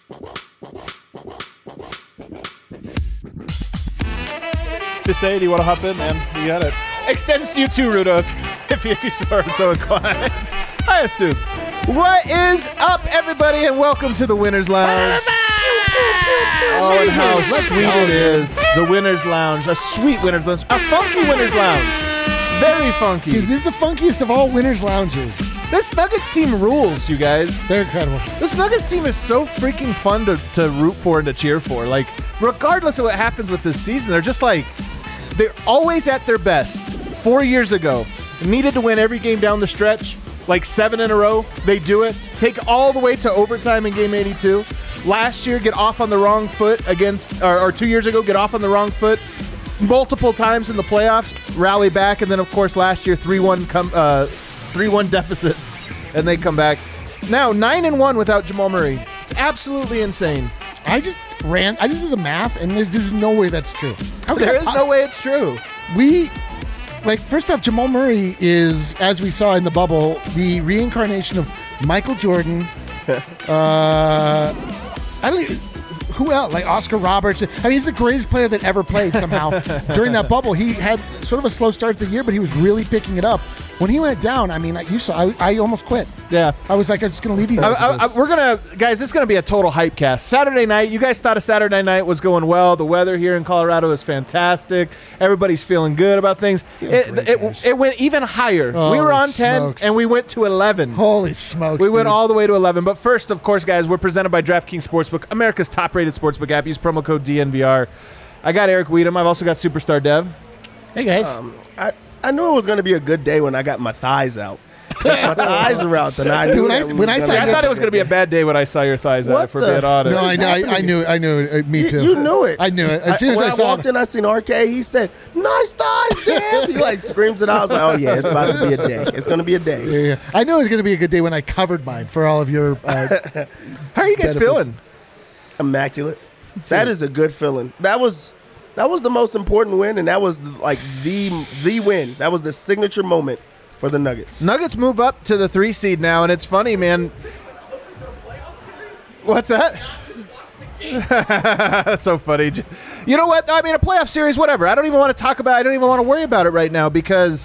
To say, do you want to hop in, man? You got it. Extends to you too, Rudolph, if you are so inclined. I assume. What is up, everybody, and welcome to the Winners Lounge. Oh, and how sweet it is. The Winners Lounge. A sweet Winners Lounge. A funky Winners Lounge. Very funky. Dude, this is the funkiest of all Winners Lounges. This Nuggets team rules, you guys. They're incredible. This Nuggets team is so freaking fun to root for and to cheer for. Like, regardless of what happens with this season, they're just like, they're always at their best. 4 years ago, needed to win every game down the stretch, like 7 in a row. They do it. Take all the way to overtime in game 82. Last year, get off on the wrong foot against, or 2 years ago, get off on the wrong foot multiple times in the playoffs, rally back, and then, of course, last year, 3-1 deficits, and they come back. Now, 9-1 without Jamal Murray. It's absolutely insane. I just did the math, and there's no way that's true. Okay, there is no way it's true. First off, Jamal Murray is, as we saw in the bubble, the reincarnation of Michael Jordan. Who else? Like Oscar Robertson. I mean, he's the greatest player that ever played somehow. During that bubble, he had sort of a slow start to the year, but he was really picking it up. When he went down, I mean, you saw, I almost quit. Yeah. I was like, I'm just going to leave you guys. Guys, this is going to be a total hype cast. Saturday night, you guys thought a Saturday night was going well. The weather here in Colorado is fantastic. Everybody's feeling good about things. It went even higher. Holy we were on 10, smokes. and we went to 11. Holy smokes. We went dude. all the way to 11. But first, of course, guys, we're presented by DraftKings Sportsbook, America's top-rated sportsbook app. Use promo code DNVR. I got Eric Weedham. I've also got Superstar Dev. Hey, guys. I knew it was going to be a good day when I got my thighs out. My thighs are out tonight. Dude, I thought it was going to be a bad day when I saw your thighs out, if we're being honest. No, I knew it. Me too. You knew it. I knew it. As soon as when I saw walked in, I seen RK. He said, "Nice thighs, Dev." He like screams it out. I was like, "Oh yeah, it's about to be a day. It's going to be a day." Yeah. I knew it was going to be a good day when I covered mine for all of your. How are you guys feeling? Immaculate. That is a good feeling. That was the most important win, and that was like the win. That was the signature moment for the Nuggets. Nuggets move up to the 3 seed now, and it's funny, man. What's that? That's so funny. You know what? I mean, a playoff series, whatever. I don't even want to talk about it. I don't even want to worry about it right now because,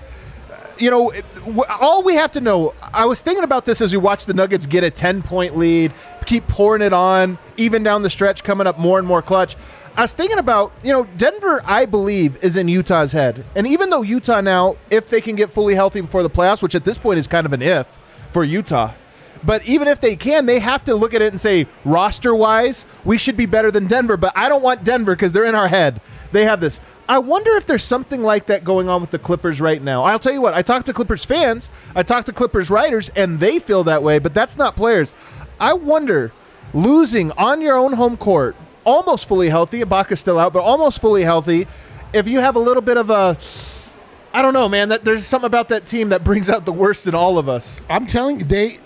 all we have to know, I was thinking about this as we watched the Nuggets get a 10-point lead, keep pouring it on, even down the stretch, coming up more and more clutch. I was thinking about, Denver, I believe, is in Utah's head. And even though Utah now, if they can get fully healthy before the playoffs, which at this point is kind of an if for Utah, but even if they can, they have to look at it and say, roster-wise, we should be better than Denver. But I don't want Denver because they're in our head. They have this. I wonder if there's something like that going on with the Clippers right now. I'll tell you what, I talked to Clippers fans, I talked to Clippers writers, and they feel that way, but that's not players. I wonder, losing on your own home court, almost fully healthy, Ibaka's still out, but almost fully healthy, if you have a little bit of a, I don't know, man, that there's something about that team that brings out the worst in all of us. I'm telling you,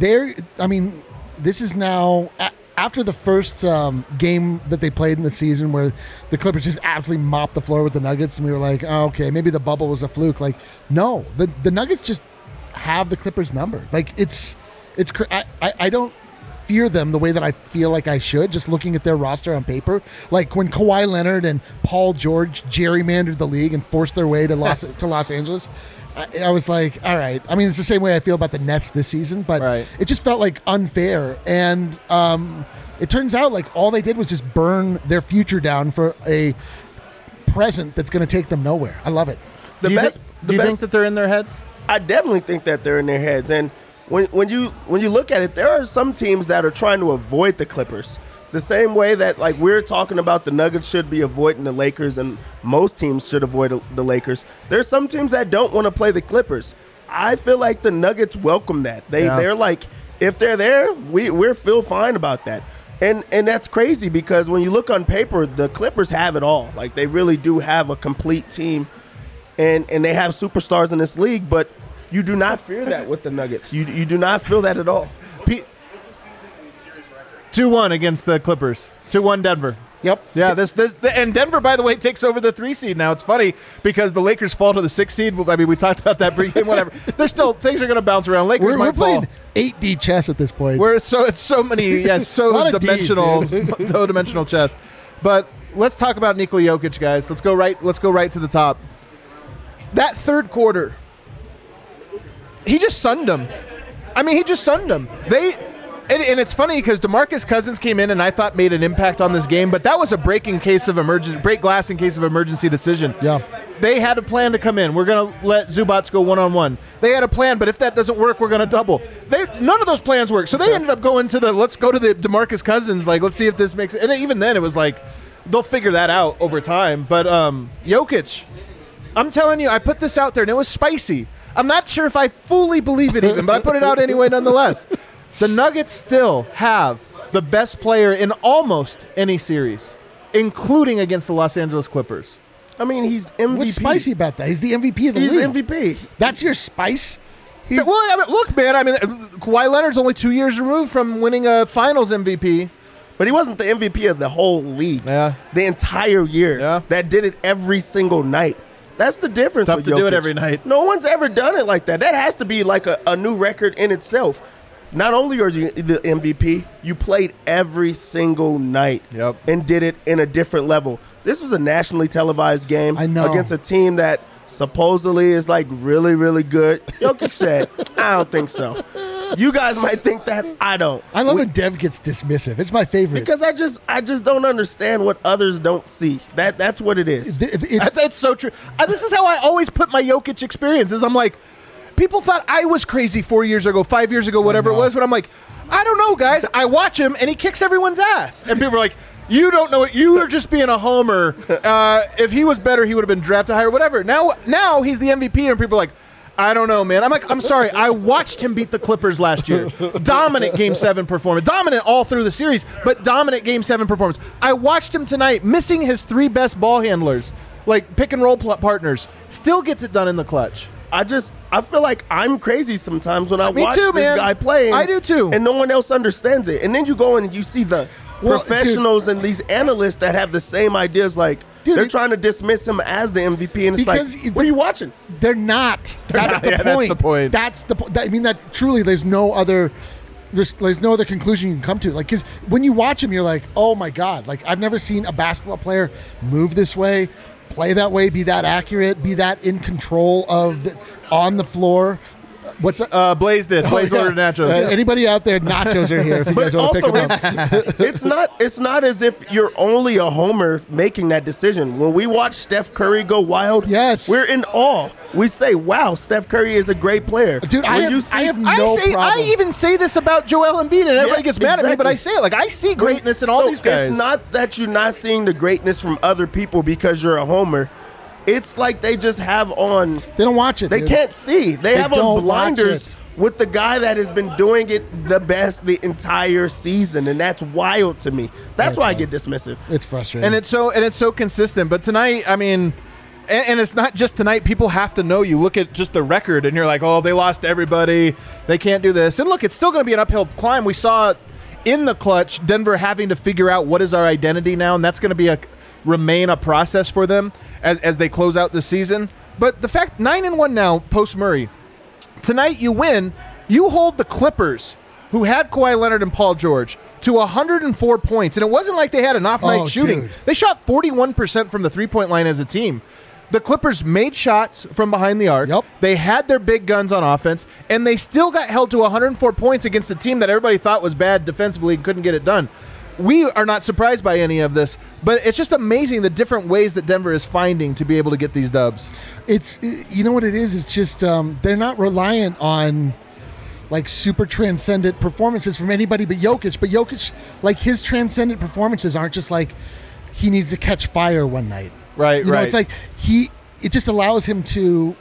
this is now after the first game that they played in the season where the Clippers just absolutely mopped the floor with the Nuggets, and we were like, oh, okay, maybe the bubble was a fluke. Like, no, the Nuggets just have the Clippers number. Like, I don't fear them the way that I feel like I should, just looking at their roster on paper. Like when Kawhi Leonard and Paul George gerrymandered the league and forced their way to Los Angeles, I was like, all right. I mean, it's the same way I feel about the Nets this season, but It just felt like unfair. And it turns out like all they did was just burn their future down for a present that's going to take them nowhere. I love it. Do you think that they're in their heads? I definitely think that they're in their heads. And when you look at it, there are some teams that are trying to avoid the Clippers. The same way that like we're talking about the Nuggets should be avoiding the Lakers and most teams should avoid the Lakers. There's some teams that don't want to play the Clippers. I feel like the Nuggets welcome that. They're like, if they're there, we feel fine about that. And that's crazy because when you look on paper, the Clippers have it all. Like they really do have a complete team and they have superstars in this league, but you do not fear that with the Nuggets. You do not feel that at all. 2-1 against the Clippers. 2-1 Denver. Yep. Yeah, and Denver, by the way, takes over the 3 seed now. It's funny because the Lakers fall to the 6 seed. I mean, we talked about that pregame, whatever. There's still things are going to bounce around. Lakers We're might fall. playing 8D chess at this point. It's so many, so lot of dimensional, Ds, so dimensional chess. But let's talk about Nikola Jokic, guys. Let's go right to the top. That third quarter, he just sunned them. I mean, he just sunned them. And it's funny because DeMarcus Cousins came in and I thought made an impact on this game, but that was a break glass in case of emergency decision. Yeah. They had a plan to come in. We're going to let Zubats go one-on-one. They had a plan, but if that doesn't work, we're going to double. None of those plans worked. So they ended up going to let's go to the DeMarcus Cousins, let's see if this makes it. And even then it was like, they'll figure that out over time. But Jokic, I'm telling you, I put this out there and it was spicy. I'm not sure if I fully believe it even, but I put it out anyway nonetheless. The Nuggets still have the best player in almost any series, including against the Los Angeles Clippers. I mean, he's MVP. What's spicy about that? He's the MVP of the He's league. MVP. That's your spice? Look, man, Kawhi Leonard's only 2 years removed from winning a Finals MVP. But he wasn't the MVP of the whole league. Yeah. The entire year. Yeah. That did it every single night. That's the difference. Tough with to Jokic. do it every night. No one's ever done it like that. That has to be like a new record in itself. Not only are you the MVP, you played every single night. Yep. And did it in a different level. This was a nationally televised game I know. against a team that supposedly is really, really good. Jokic said, I don't think so. You guys might think that. I don't. I love when Dev gets dismissive. It's my favorite. Because I just don't understand what others don't see. That's what it is. That's so true. This is how I always put my Jokic experiences. I'm like, people thought I was crazy 4 years ago, 5 years ago, whatever it was, but I'm like, I don't know, guys. I watch him, and he kicks everyone's ass. And people are like, you don't know it. You are just being a homer. If he was better, he would have been drafted higher, whatever. Now he's the MVP, and people are like, I don't know, man. I'm like, I'm sorry. I watched him beat the Clippers last year. Dominant Game 7 performance. Dominant all through the series, but dominant Game 7 performance. I watched him tonight missing his 3 best ball handlers, like pick and roll partners. Still gets it done in the clutch. I feel like I'm crazy sometimes when I watch too, this man. guy playing. I do too. And no one else understands it. And then you go and you see the professionals and these analysts that have the same ideas like, they're trying to dismiss him as the MVP, and it's like, what are you watching? They're not. That's the point. That's the point. I mean, that's truly. There's no other conclusion you can come to. Like, because when you watch him, you're like, oh my god! Like, I've never seen a basketball player move this way, play that way, be that accurate, be that in control of on the floor. What's that? Blaze did. Blaze ordered nachos. Anybody out there, nachos are here if you guys want to pick them up. It's not as if you're only a homer making that decision. When we watch Steph Curry go wild, yes, we're in awe. We say, wow, Steph Curry is a great player. Dude, I have no problem. I even say this about Joel Embiid, and everybody gets mad at me, but I say it. Like, I see greatness in all these guys. It's not that you're not seeing the greatness from other people because you're a homer. It's like they just have on. They don't watch it. They can't see. They have on blinders with the guy that has been doing it the best the entire season, and that's wild to me. That's why I get dismissive. It's frustrating, and it's so consistent. But tonight, I mean, and it's not just tonight. People have to know. You look at just the record, and you're like, oh, they lost everybody. They can't do this. And look, it's still going to be an uphill climb. We saw in the clutch Denver having to figure out what is our identity now, and that's going to remain a process for them as they close out the season. But the fact 9-1 now post Murray, tonight you win, you hold the Clippers, who had Kawhi Leonard and Paul George, to 104 points, and it wasn't like they had an off night shooting. Dude. They shot 41% from the 3-point line as a team. The Clippers made shots from behind the arc. Yep. They had their big guns on offense, and they still got held to 104 points against a team that everybody thought was bad defensively and couldn't get it done. We are not surprised by any of this, but it's just amazing the different ways that Denver is finding to be able to get these dubs. It's, you know what it is? It's just they're not reliant on like super transcendent performances from anybody but Jokic. But Jokic, like his transcendent performances aren't just like he needs to catch fire one night. Right, you know, it's like it just allows him to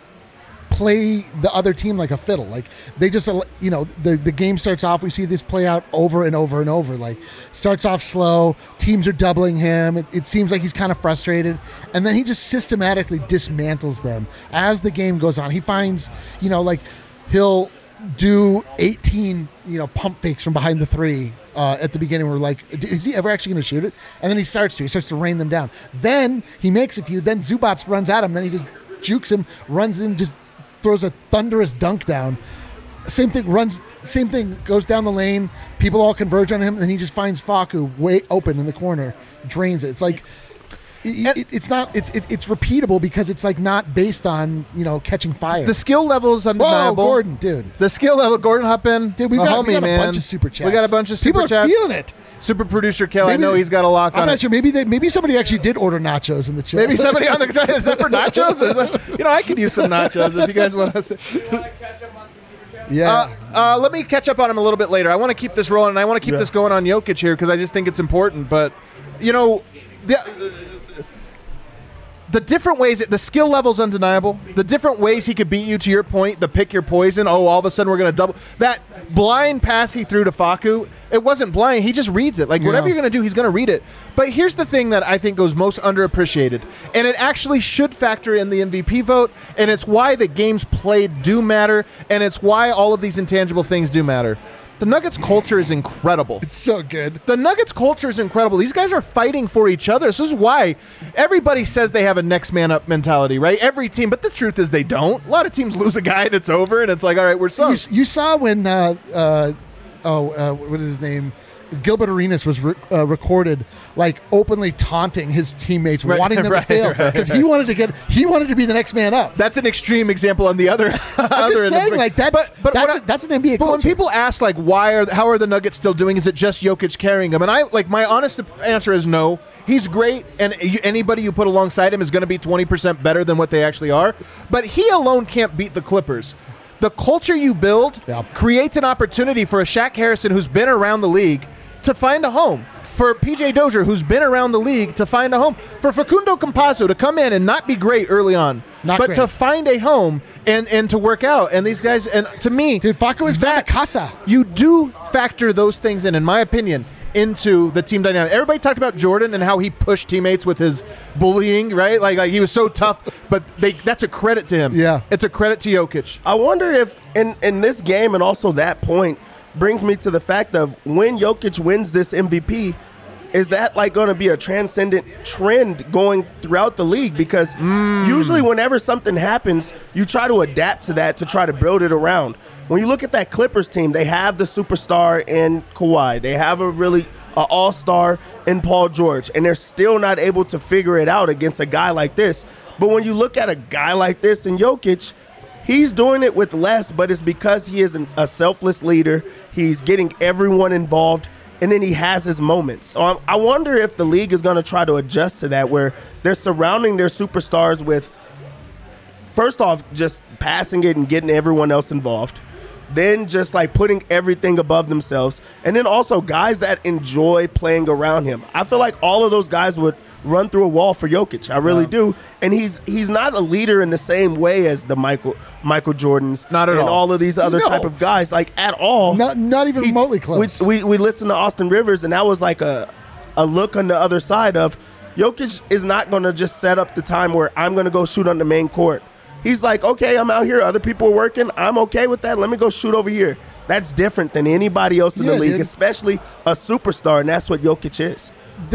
play the other team like a fiddle. Like they just, you know, the game starts off, we see this play out over and over and over. Like starts off slow, teams are doubling him. It seems like he's kind of frustrated. And then he just systematically dismantles them as the game goes on. He finds, you know, like he'll do 18, pump fakes from behind the three at the beginning. We're like, is he ever actually going to shoot it? And then he starts to rain them down. Then he makes a few. Then Zubats runs at him. Then he just jukes him, runs in, just throws a thunderous dunk down. Same thing, goes down the lane. People all converge on him, and he just finds Facu way open in the corner, drains it. It's like it's repeatable because it's like not based on catching fire. The skill level is undeniable. Whoa, Gordon, dude. The skill level, Gordon, hop in. Dude, we got a bunch of super chats. We got a bunch of super People chats. People are feeling it. Super producer Kel, I know he's got a lock on it. I'm not sure. Maybe somebody actually did order nachos in the chat. Maybe somebody on the chat. Is that for nachos? Or is that, I could use some nachos if you guys want to. Yeah. Let me catch up on him a little bit later. I want to keep this rolling, and I want to keep this going on Jokic here because I just think it's important. But, the different ways, the skill level's undeniable. The different ways he could beat you, to your point, the pick your poison. Oh, all of a sudden we're going to double. That blind pass he threw to Facu, it wasn't blind. He just reads it. Like, whatever you're going to do, he's going to read it. But here's the thing that I think goes most underappreciated, and it actually should factor in the MVP vote, and it's why the games played do matter, and it's why all of these intangible things do matter. The Nuggets culture is incredible. It's so good. The Nuggets culture is incredible. These guys are fighting for each other. This is why everybody says they have a next man up mentality, right? Every team, but the truth is they don't. A lot of teams lose a guy and it's over, and it's like, all right, we're sunk. You saw when what is his name? Gilbert Arenas was recorded like openly taunting his teammates, wanting them to fail because he wanted to be the next man up. That's an extreme example on the other. I'm just saying, like that's an NBA. But when people ask like how are the Nuggets still doing? Is it just Jokic carrying them? And my honest answer is no. He's great, and anybody you put alongside him is going to be 20% better than what they actually are. But he alone can't beat the Clippers. The culture you build creates an opportunity for a Shaq Harrison who's been around the league to find a home, for PJ Dozier, who's been around the league, to find a home, for Facundo Campazzo to come in and not be great early on, to find a home and to work out. And these guys, and to me, dude, Facu is that casa. You do factor those things in my opinion, into the team dynamic. Everybody talked about Jordan and how he pushed teammates with his bullying, right? Like he was so tough, but that's a credit to him. Yeah. It's a credit to Jokic. I wonder if in this game and also that point brings me to the fact of when Jokic wins this MVP, is that like going to be a transcendent trend going throughout the league? Because usually whenever something happens, you try to adapt to that to try to build it around. When you look at that Clippers team, they have the superstar in Kawhi. They have an all-star in Paul George, and they're still not able to figure it out against a guy like this. But when you look at a guy like this in Jokic, he's doing it with less, but it's because he is a selfless leader. He's getting everyone involved, and then he has his moments. So I wonder if the league is going to try to adjust to that, where they're surrounding their superstars with, first off, just passing it and getting everyone else involved. Then just like putting everything above themselves. And then also guys that enjoy playing around him. I feel like all of those guys would run through a wall for Jokic. I really do. And he's not a leader in the same way as the Michael Jordans. Not at all. And all of these other type of guys. Like at all. Not even remotely close. We listened to Austin Rivers, and that was like a look on the other side of Jokic is not going to just set up the time where I'm going to go shoot on the main court. He's like, okay, I'm out here. Other people are working. I'm okay with that. Let me go shoot over here. That's different than anybody else in the league, especially a superstar, and that's what Jokic is.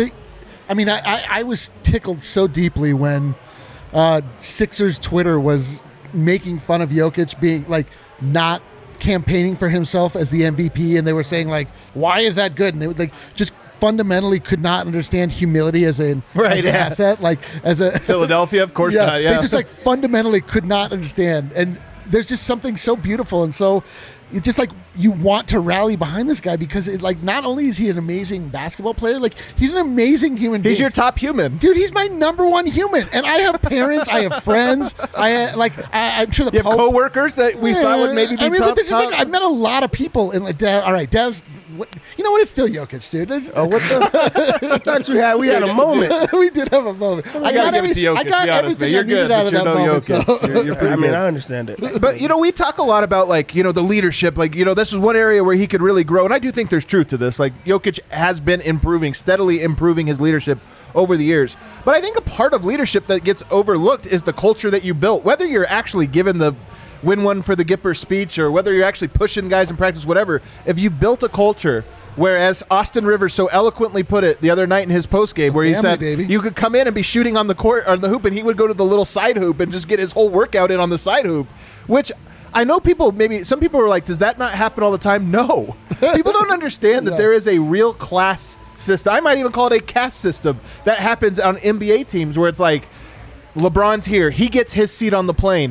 I was tickled so deeply when Sixers Twitter was making fun of Jokic being like not campaigning for himself as the MVP, and they were saying like, why is that good? And they would like just fundamentally could not understand humility as an asset, like as a Philadelphia, of course not. Yeah, they just like fundamentally could not understand, and there's just something so beautiful and so it's just like you want to rally behind this guy because it, like not only is he an amazing basketball player, like he's an amazing human being. He's your top human, dude. He's my number one human, and I have parents, I have friends, I'm sure you have coworkers that we thought would maybe be tough. But like, I've met a lot of people, and like, all right, Dev's. You know what? It's still Jokic, dude. What the? I thought we had a moment. We did have a moment. I got give it to Jokic. I got everything I needed out of that moment. You're pretty good. I understand it. But we talk a lot about like the leadership. Like this is one area where he could really grow, and I do think there's truth to this. Like Jokic has been steadily improving his leadership over the years. But I think a part of leadership that gets overlooked is the culture that you built. Whether you're actually given the win one for the Gipper speech, or whether you're actually pushing guys in practice, whatever, if you built a culture, whereas Austin Rivers so eloquently put it the other night in his postgame, where he said baby. you could come in and be shooting on the court on the hoop, and he would go to the little side hoop and just get his whole workout in on the side hoop, which I know some people are like, does that not happen all the time? No. People don't understand that there is a real class system. I might even call it a caste system that happens on NBA teams where it's like, LeBron's here. He gets his seat on the plane.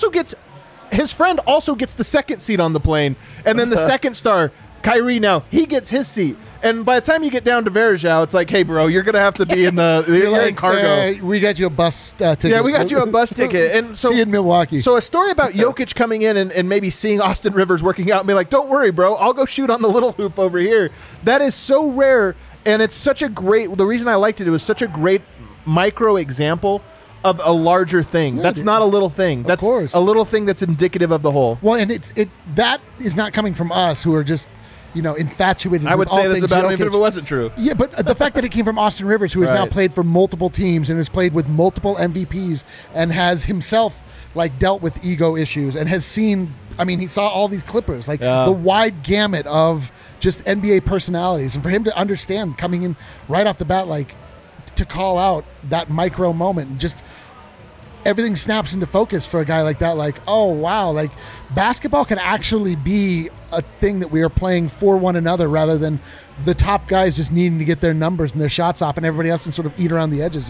His friend also gets the second seat on the plane. And then the second star, Kyrie, now, he gets his seat. And by the time you get down to Varejao, it's like, hey, bro, you're going to have to be in you're in cargo. We got you a bus ticket. Yeah, we got you a bus ticket. And so, see you in Milwaukee. So a story about Jokic coming in and maybe seeing Austin Rivers working out and be like, don't worry, bro, I'll go shoot on the little hoop over here. That is so rare, and it's such a great – the reason I liked it was such a great micro example of a larger thing. That's not a little thing. That's course. a little thing that's indicative of the whole. Well, and that is not coming from us who are just – infatuated. I would with all say this things about him Jokic. even if it wasn't true. Yeah, but the fact that it came from Austin Rivers, who has now Right. played for multiple teams and has played with multiple MVPs and has himself dealt with ego issues and has seen. I mean, he saw all these Clippers, the wide gamut of just NBA personalities, and for him to understand coming in right off the bat, to call out that micro moment and just. Everything snaps into focus for a guy like that. Oh, wow. Basketball can actually be a thing that we are playing for one another rather than the top guys just needing to get their numbers and their shots off and everybody else can sort of eat around the edges.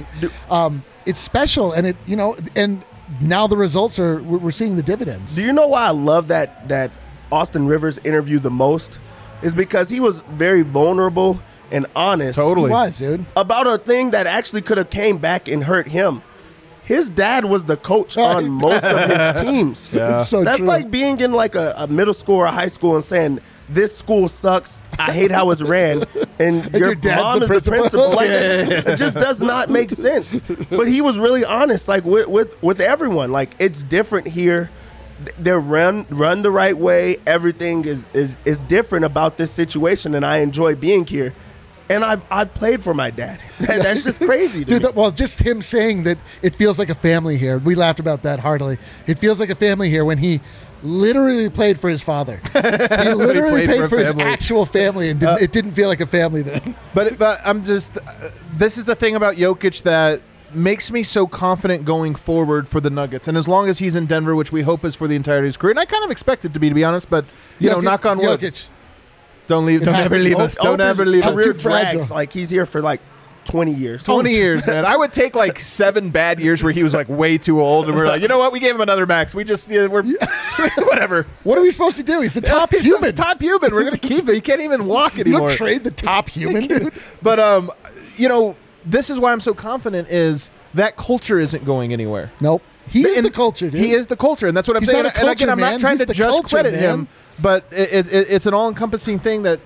It's special. And and now the results we're seeing the dividends. Do you know why I love that Austin Rivers interview the most? Is because he was very vulnerable and honest. Totally. He was, dude. About a thing that actually could have came back and hurt him. His dad was the coach on most of his teams. Yeah. It's so That's true. like being in a middle school or a high school and saying, this school sucks. I hate how it's ran. And your dad's mom the is the principal. principal. It just does not make sense. But he was really honest, with everyone. It's different here. They're run the right way. Everything is different about this situation, and I enjoy being here. And I've played for my dad. That's just crazy to me. Well, just him saying that it feels like a family here. We laughed about that heartily. It feels like a family here when he literally played for his father. He literally played paid for for a his family. actual family, and it didn't feel like a family then. But I'm just this is the thing about Jokic that makes me so confident going forward for the Nuggets. And as long as he's in Denver, which we hope is for the entirety of his career, and I kind of expect it to be honest, but knock on wood. Jokic. Don't ever leave us. Don't ever leave us. Career Too fragile. drags. He's here for 20 years. 20 years, man. I would take 7 bad years where he was way too old, and we're like, you know what? We gave him another max. We just we're whatever. What are we supposed to do? He's the top He's human. the top human. We're gonna keep it. He can't even walk You anymore. don't trade the top human, dude. But this is why I'm so confident is that culture isn't going anywhere. Nope. He is And the culture, dude. He is the culture, and that's what I'm He's saying. not a And again, culture I'm man. not trying He's to the just culture, credit man. him, but it's an all-encompassing thing that.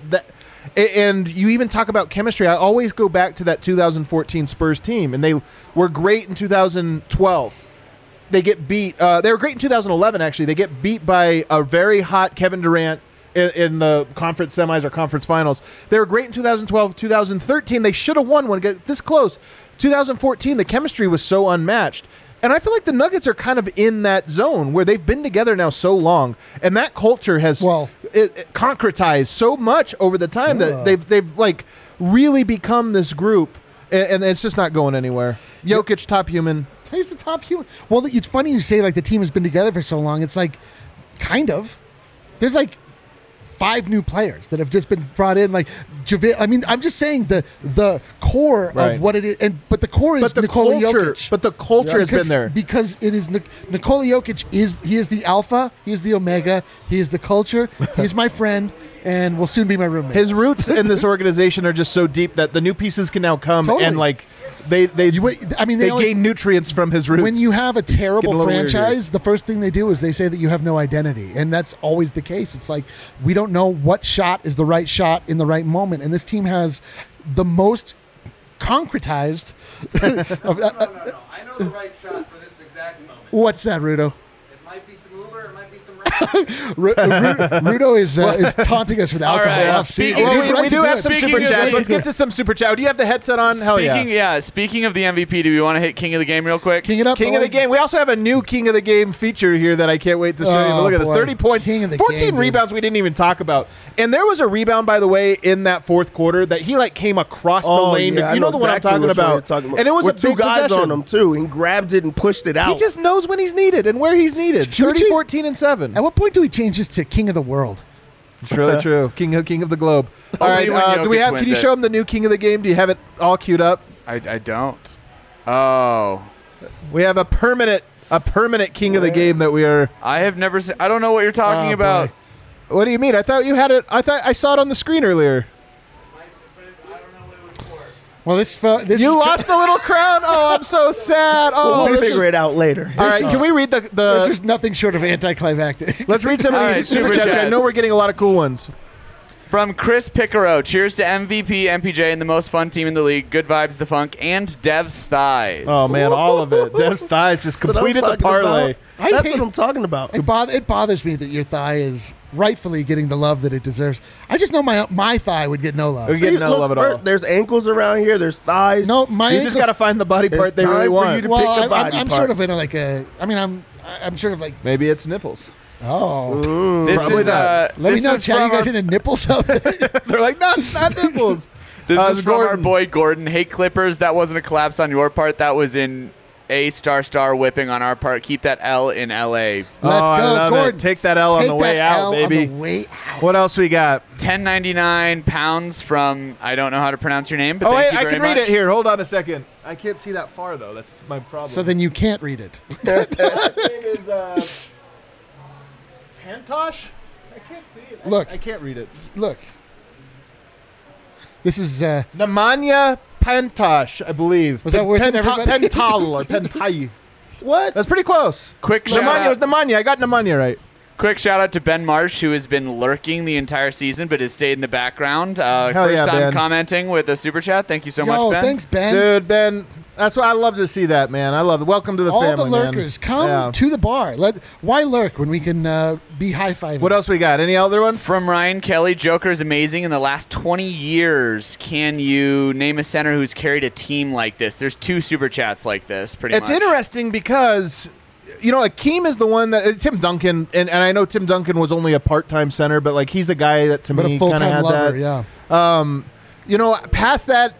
And you even talk about chemistry. I always go back to that 2014 Spurs team, and they were great in 2012. They get beat. They were great in 2011, actually. They get beat by a very hot Kevin Durant in the conference semis or conference finals. They were great in 2012. 2013, they should have won one. Get this close. 2014, the chemistry was so unmatched. And I feel like the Nuggets are kind of in that zone where they've been together now so long, and that culture has it concretized so much over the time that they've really become this group, and it's just not going anywhere. Jokic, top human. He's the top human. Well, it's funny you say the team has been together for so long. It's kind of. There's 5 new players that have just been brought in. JaVale. I mean, I'm just saying the core Right. of what it is, but the core is Nikola Jokic. But the culture has been there. Because it is Nikola Jokic he is the alpha, he is the omega, he is the culture, he is my friend, and will soon be my roommate. His roots in this organization are just so deep that the new pieces can now come Totally. and they gain nutrients from his roots. When you have a Getting terrible a little weird franchise, the first thing they do is they say that you have no identity, and that's always the case. It's we don't know what shot is the right shot in the right moment, and this team has the most concretized. No. I know the right shot for this exact moment. What's that, Rudo? It might be some Uber, it might be some rap. Rudo is taunting us with alcohol. right, off speaking- season. Well, He's we right do to have do some it. super Speaking chats. of- Let's get to some super chat. Do you have the headset on? Hell yeah. Speaking of the MVP, do we want to hit King of the Game real quick? King it up. King of the boy. game. We also have a new King of the Game feature here that I can't wait to show you. But Oh, look at this: boy. 30 points, King of the 14 game, dude. rebounds. We didn't even talk about. And there was a rebound, by the way, in that fourth quarter that he like came across the lane. yeah, I You know the one I'm exactly talking which one you're about. talking about. And it was with a two big guys possession. on him too, and grabbed it and pushed it out. He just knows when he's needed and where he's needed. Should we 30, change- 14, and 7. At what point do we change this to King of the World? It's really true. King of the globe. All Only right. when Do we Jokic have? Can wins you it. show him the new King of the Game? Do you have it all queued up? I don't. Oh. We have a permanent King of the Game that we are. I have never seen. I don't know what you're talking Oh, about. boy. What do you mean? I thought you had it. I thought I saw it on the screen earlier. Well, this You lost the little crown. Oh, I'm so sad. Oh, We'll this figure is- it out later. All right, can we read This the? is nothing short of anticlimactic. Let's read some of All these right, super super chats. I chats. know we're getting a lot of cool ones. From Chris Picaro, cheers to MVP, MPJ, and the most fun team in the league. Good vibes, the funk, and Dev's thighs. Oh man, all of it. Dev's thighs just That's what I'm completed the talking parlay. about. I That's hate- what I'm talking about. It bothers me that your thigh is rightfully getting the love that it deserves. I just know my thigh would get no love. We get no love at all. There's ankles around here. There's thighs. No, my You ankles, just got to find the body part It's they really time for want. you to well, pick a I'm- body I'm part. sort of in a, like a. I mean, I'm sort of like. Maybe it's nipples. Oh, This Probably is not. let me this know, is Chad. You from guys our- into nipples out there? They're like, no, it's not nipples. This is from our Gordon. boy Gordon. Hey Clippers, that wasn't a collapse on your part. That was in A * whipping on our part. Keep that L in LA. Let's Oh, I go, love Gordon. it. Take that L on Take the way that out, L baby. On the way out. What else we got? 1099 pounds from I don't know how to pronounce your name, but Oh thank wait, you I very can read much. it here. Hold on a second. I can't see that far though. That's my problem. So then you can't read it. His last name is Pantosh. I can't see it. Look. I can't read it. Look, this is Nemanja Pantosh, I believe. Was that worth it, everybody? Pental or Pentai. What? That's pretty close. Quick shout Nemanja was out. Nemanja. I got Nemanja right. Quick shout out to Ben Marsh, who has been lurking the entire season but has stayed in the background. First yeah, time Ben. commenting with a super chat. Thank you so much, Ben. thanks, Ben. Dude, Ben, that's why I love to see that, man. I love it. Welcome to the All family, the lurkers, man. come Yeah. to the bar. Why lurk when we can be high fiving? What else we got? Any other ones? From Ryan Kelly, Joker is amazing. In the last 20 years, can you name a center who's carried a team like this? There's 2 super chats like this, pretty It's much. interesting because, you know, Akeem is the one that Tim Duncan, and I know Tim Duncan was only a part-time center, but like he's a guy that to But me a kind of full-time had lover, that. yeah. You know, past that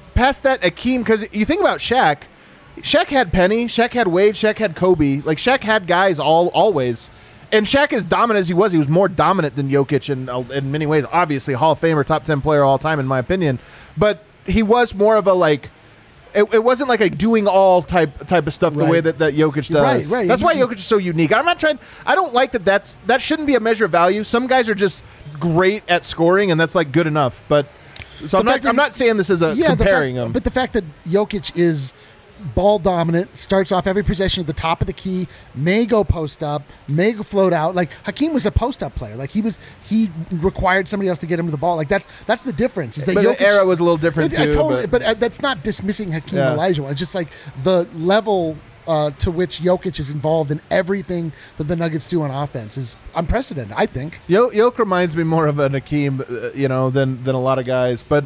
Akeem, because you think about Shaq. Shaq had Penny, Shaq had Wade, Shaq had Kobe. Like Shaq had guys always. And Shaq, as dominant as he was more dominant than Jokic in many ways. Obviously, Hall of Famer, top 10 player all time, in my opinion. But he was more of a like. It wasn't like a doing all type of stuff the Right. way that Jokic does. Right. That's why Jokic is so unique. I'm not trying. I don't like that. That shouldn't be a measure of value. Some guys are just great at scoring, and that's like good enough. But so I'm fact that- not saying this as a comparing them. But the fact that Jokic is ball dominant, starts off every possession at the top of the key, may go post up, may go float out. Like Hakeem was a post up player. Like he required somebody else to get him the ball. Like that's the difference. Is that But Jokic, the era was a little different too. Totally, but- but that's not dismissing Hakeem Yeah. Olajuwon. It's just like the level to which Jokic is involved in everything that the Nuggets do on offense is unprecedented, I think. Jokic reminds me more of an Hakeem, than a lot of guys. But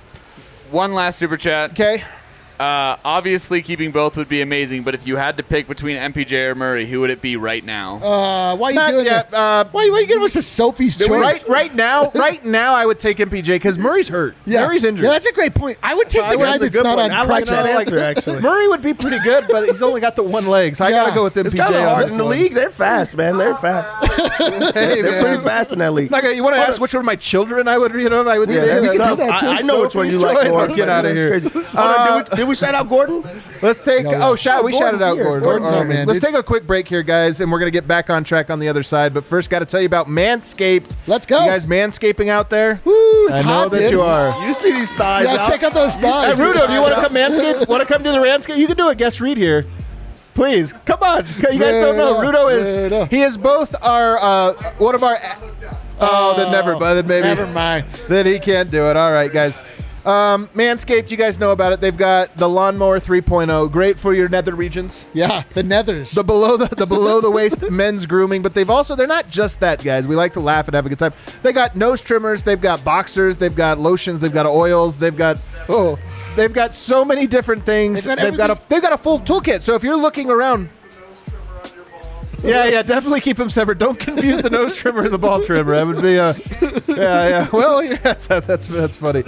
One last super chat. okay. Obviously, keeping both would be amazing, but if you had to pick between MPJ or Murray, who would it be right now? Why are you Not doing yet. that? Why are you giving us a Sophie's choice? Right now, I would take MPJ because Murray's hurt. Murray's injured. Yeah, that's a great point. I would take the guy that's a that's good not one. on I like crutches. that answer, actually. Murray would be pretty good, but he's only got the one leg, so I Yeah. gotta go with MPJ. It's kind of on hard this in the one. league. They're fast, man. They're fast. Hey, They're man. pretty fast in that league. You want to ask which one of my children I would, I would Yeah, say? that's we can do tough. that, too. I know which one you Sophie's like choice. more. Let's get out of That's here. crazy. Hold on, did we shout out Gordon? Let's take. Yeah. Oh, we shouted out here. Gordon. Gordon's All our man, Let's dude. take a quick break here, guys, and we're gonna get back on track on the other side. But first, got to tell you about Manscaped. Let's go. You guys, manscaping out there? Woo, it's I know hot, that dude. you are. You see these thighs Yeah, out? check out those Hey, thighs. Rudo, do you want to come Manscaped? Want to come do the Manscaped? You can do a guest read here. Please, come on. You guys don't know. Rudo Rudo. he is both our, one of our, then never, but then maybe. Never mind. Then he can't do it. All right, guys. Manscaped, you guys know about it. They've got the Lawnmower 3.0, great for your nether regions. Yeah, the nethers. The below the waist men's grooming, but they're not just that, guys. We like to laugh and have a good time. They got nose trimmers, they've got boxers, they've got lotions, they've got oils, they've got so many different things. They've got a full toolkit. So if you're looking around, yeah, definitely keep them separate. Don't confuse the nose trimmer and the ball trimmer. That would be yeah. Well, that's funny.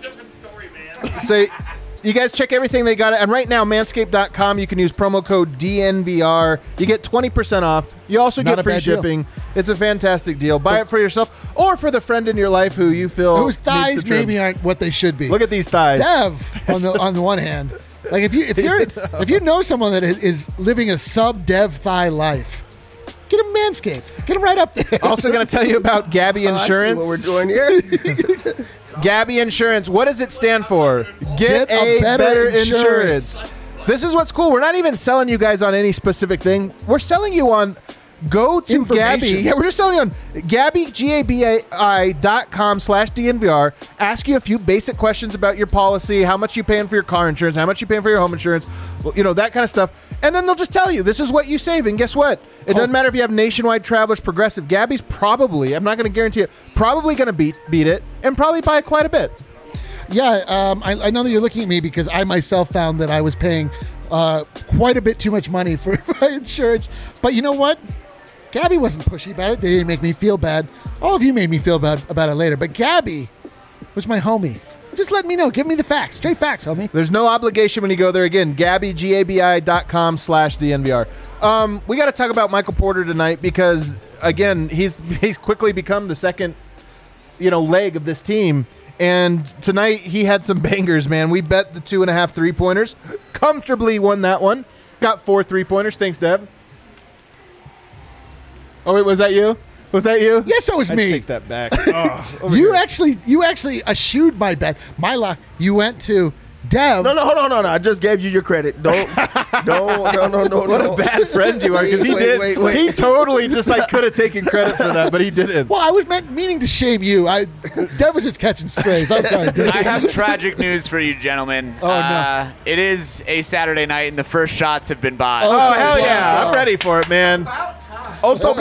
So you guys check everything they got. And right now, manscaped.com, you can use promo code DNVR. You get 20% off. You also get free shipping. It's a fantastic deal. Buy it for yourself or for the friend in your life who you feel whose thighs maybe aren't what they should be. Look at these thighs. Dev on the one hand. Like if you know someone that is living a sub-dev thigh life, get him Manscaped. Get him right up there. Also going to tell you about Gabby Insurance. What we're doing here. Gabby Insurance. What does it stand for? Get a better insurance. This is what's cool. We're not even selling you guys on any specific thing. We're selling you on go to Gabby. Yeah, we're just selling you on Gabby, GABI.com/DNVR. Ask you a few basic questions about your policy, how much you paying for your car insurance, how much you paying for your home insurance, that kind of stuff. And then they'll just tell you, this is what you save. And guess what? It doesn't matter if you have Nationwide, Travelers, Progressive. Gabby's probably, I'm not going to guarantee it, probably going to beat it and probably by quite a bit. Yeah, I know that you're looking at me because I myself found that I was paying quite a bit too much money for my insurance. But you know what? Gabby wasn't pushy about it. They didn't make me feel bad. All of you made me feel bad about it later. But Gabby was my homie. Just let me know. Give me the facts. Straight facts, homie. There's no obligation when you go there. Again, Gabby, GABI.com/DNVR. We got to talk about Michael Porter tonight because, again, he's quickly become the second, leg of this team. And tonight he had some bangers, man. We bet the 2.5 3-pointers. Comfortably won that one. Got 4 3-pointers. Thanks, Dev. Oh, wait, was that you? Was that you? Yes, that was me. Take that back. You actually eschewed my bet. My luck. You went to Dev. No, hold on. I just gave you your credit. No. What a bad friend you are, because he did. Wait. He totally just could have taken credit for that, but he didn't. Well, I was meaning to shame you. Dev was just catching strays. I'm sorry, Dev. I have tragic news for you, gentlemen. Oh, no. It is a Saturday night, and the first shots have been bought. Oh, hell yeah. I'm ready for it, man. Oso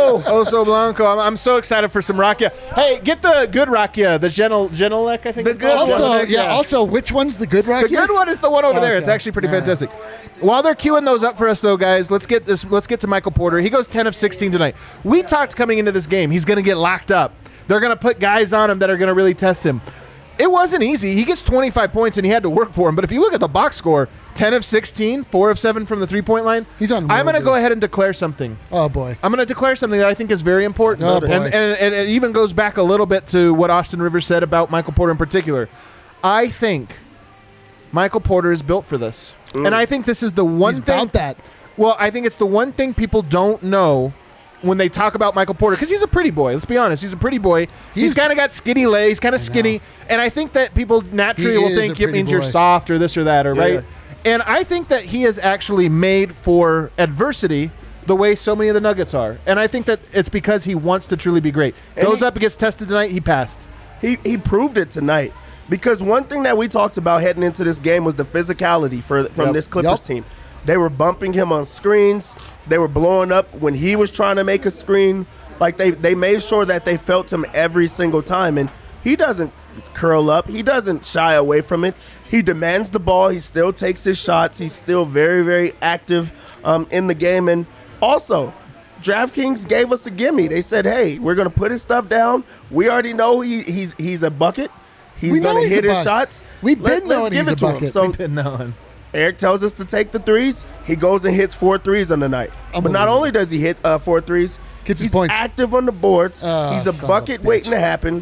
Blanco. I'm so excited for some rakia. Hey, get the good rakia, the Genelec, I think. The good one. Also, which one's the good rakia? The good one is the one over there. It's actually pretty fantastic. While they're queuing those up for us, though, guys, let's get to Michael Porter. He goes 10 of 16 tonight. We talked coming into this game, he's going to get locked up. They're going to put guys on him that are going to really test him. It wasn't easy. He gets 25 points, and he had to work for him. But if you look at the box score, 10 of 16, 4 of 7 from the three-point line. He's on. I'm going to go ahead and declare something. Oh, boy. I'm going to declare something that I think is very important. Oh, boy. And it even goes back a little bit to what Austin Rivers said about Michael Porter in particular. I think Michael Porter is built for this. And I think this is the one He's thing. about that. Well, I think it's the one thing people don't know when they talk about Michael Porter, because he's a pretty boy. Let's be honest. He's a pretty boy. He's kind of got skinny legs. He's kind of skinny. And I think that people naturally will think it means you're soft or this or that, right? And I think that he is actually made for adversity the way so many of the Nuggets are. And I think that it's because he wants to truly be great. Goes up and gets tested tonight. He passed. He proved it tonight. Because one thing that we talked about heading into this game was the physicality from this Clippers team. They were bumping him on screens. They were blowing up when he was trying to make a screen. Like they made sure that they felt him every single time. And he doesn't curl up. He doesn't shy away from it. He demands the ball. He still takes his shots. He's still very, very active in the game. And also, DraftKings gave us a gimme. They said, hey, we're going to put his stuff down. We already know he's a bucket. He's going to hit his shots. We've been knowing he's a bucket. So We've been knowing. Eric tells us to take the threes. He goes and hits 4 threes on the night. But not only does he hit 4 threes, he's active on the boards. He's a bucket waiting to happen.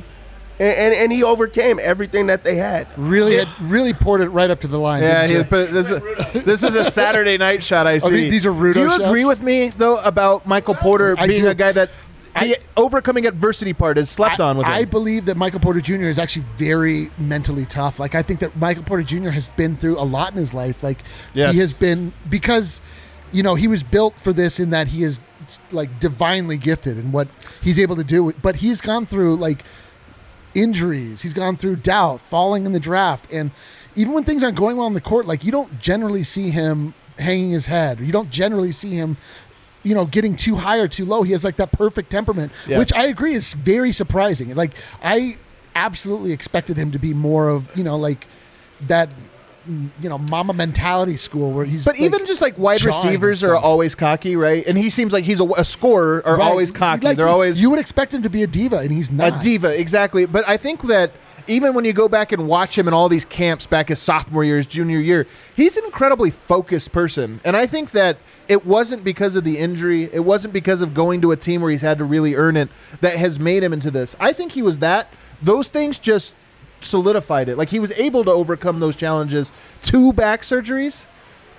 And he overcame everything that they had. Really poured it right up to the line. Yeah, but this is a Saturday night shot I see. These are Rudo Do you shots? agree with me, though, about Michael Porter being a guy that the overcoming adversity part is slept on with him? I believe that Michael Porter Jr. is actually very mentally tough. Like, I think that Michael Porter Jr. has been through a lot in his life. Like, he has been, because, he was built for this in that he is, like, divinely gifted in what he's able to do. But he's gone through, like, injuries. He's gone through doubt, falling in the draft. And even when things aren't going well on the court, like, you don't generally see him hanging his head. You don't generally see him, getting too high or too low. He has like that perfect temperament, Yes. which I agree is very surprising. Like, I absolutely expected him to be more of, like that, mama mentality school where he's. But even just like wide jawing and receivers are stuff. always cocky, right? And he seems like he's a scorer are Right. always cocky. Like, They're always You would expect him to be a diva, and he's not. a diva, exactly. But I think that even when you go back and watch him in all these camps back his sophomore year, his junior year, he's an incredibly focused person. And I think that it wasn't because of the injury, it wasn't because of going to a team where he's had to really earn it that has made him into this. I think he was that. Those things just solidified it. Like, he was able to overcome those challenges. 2 back surgeries.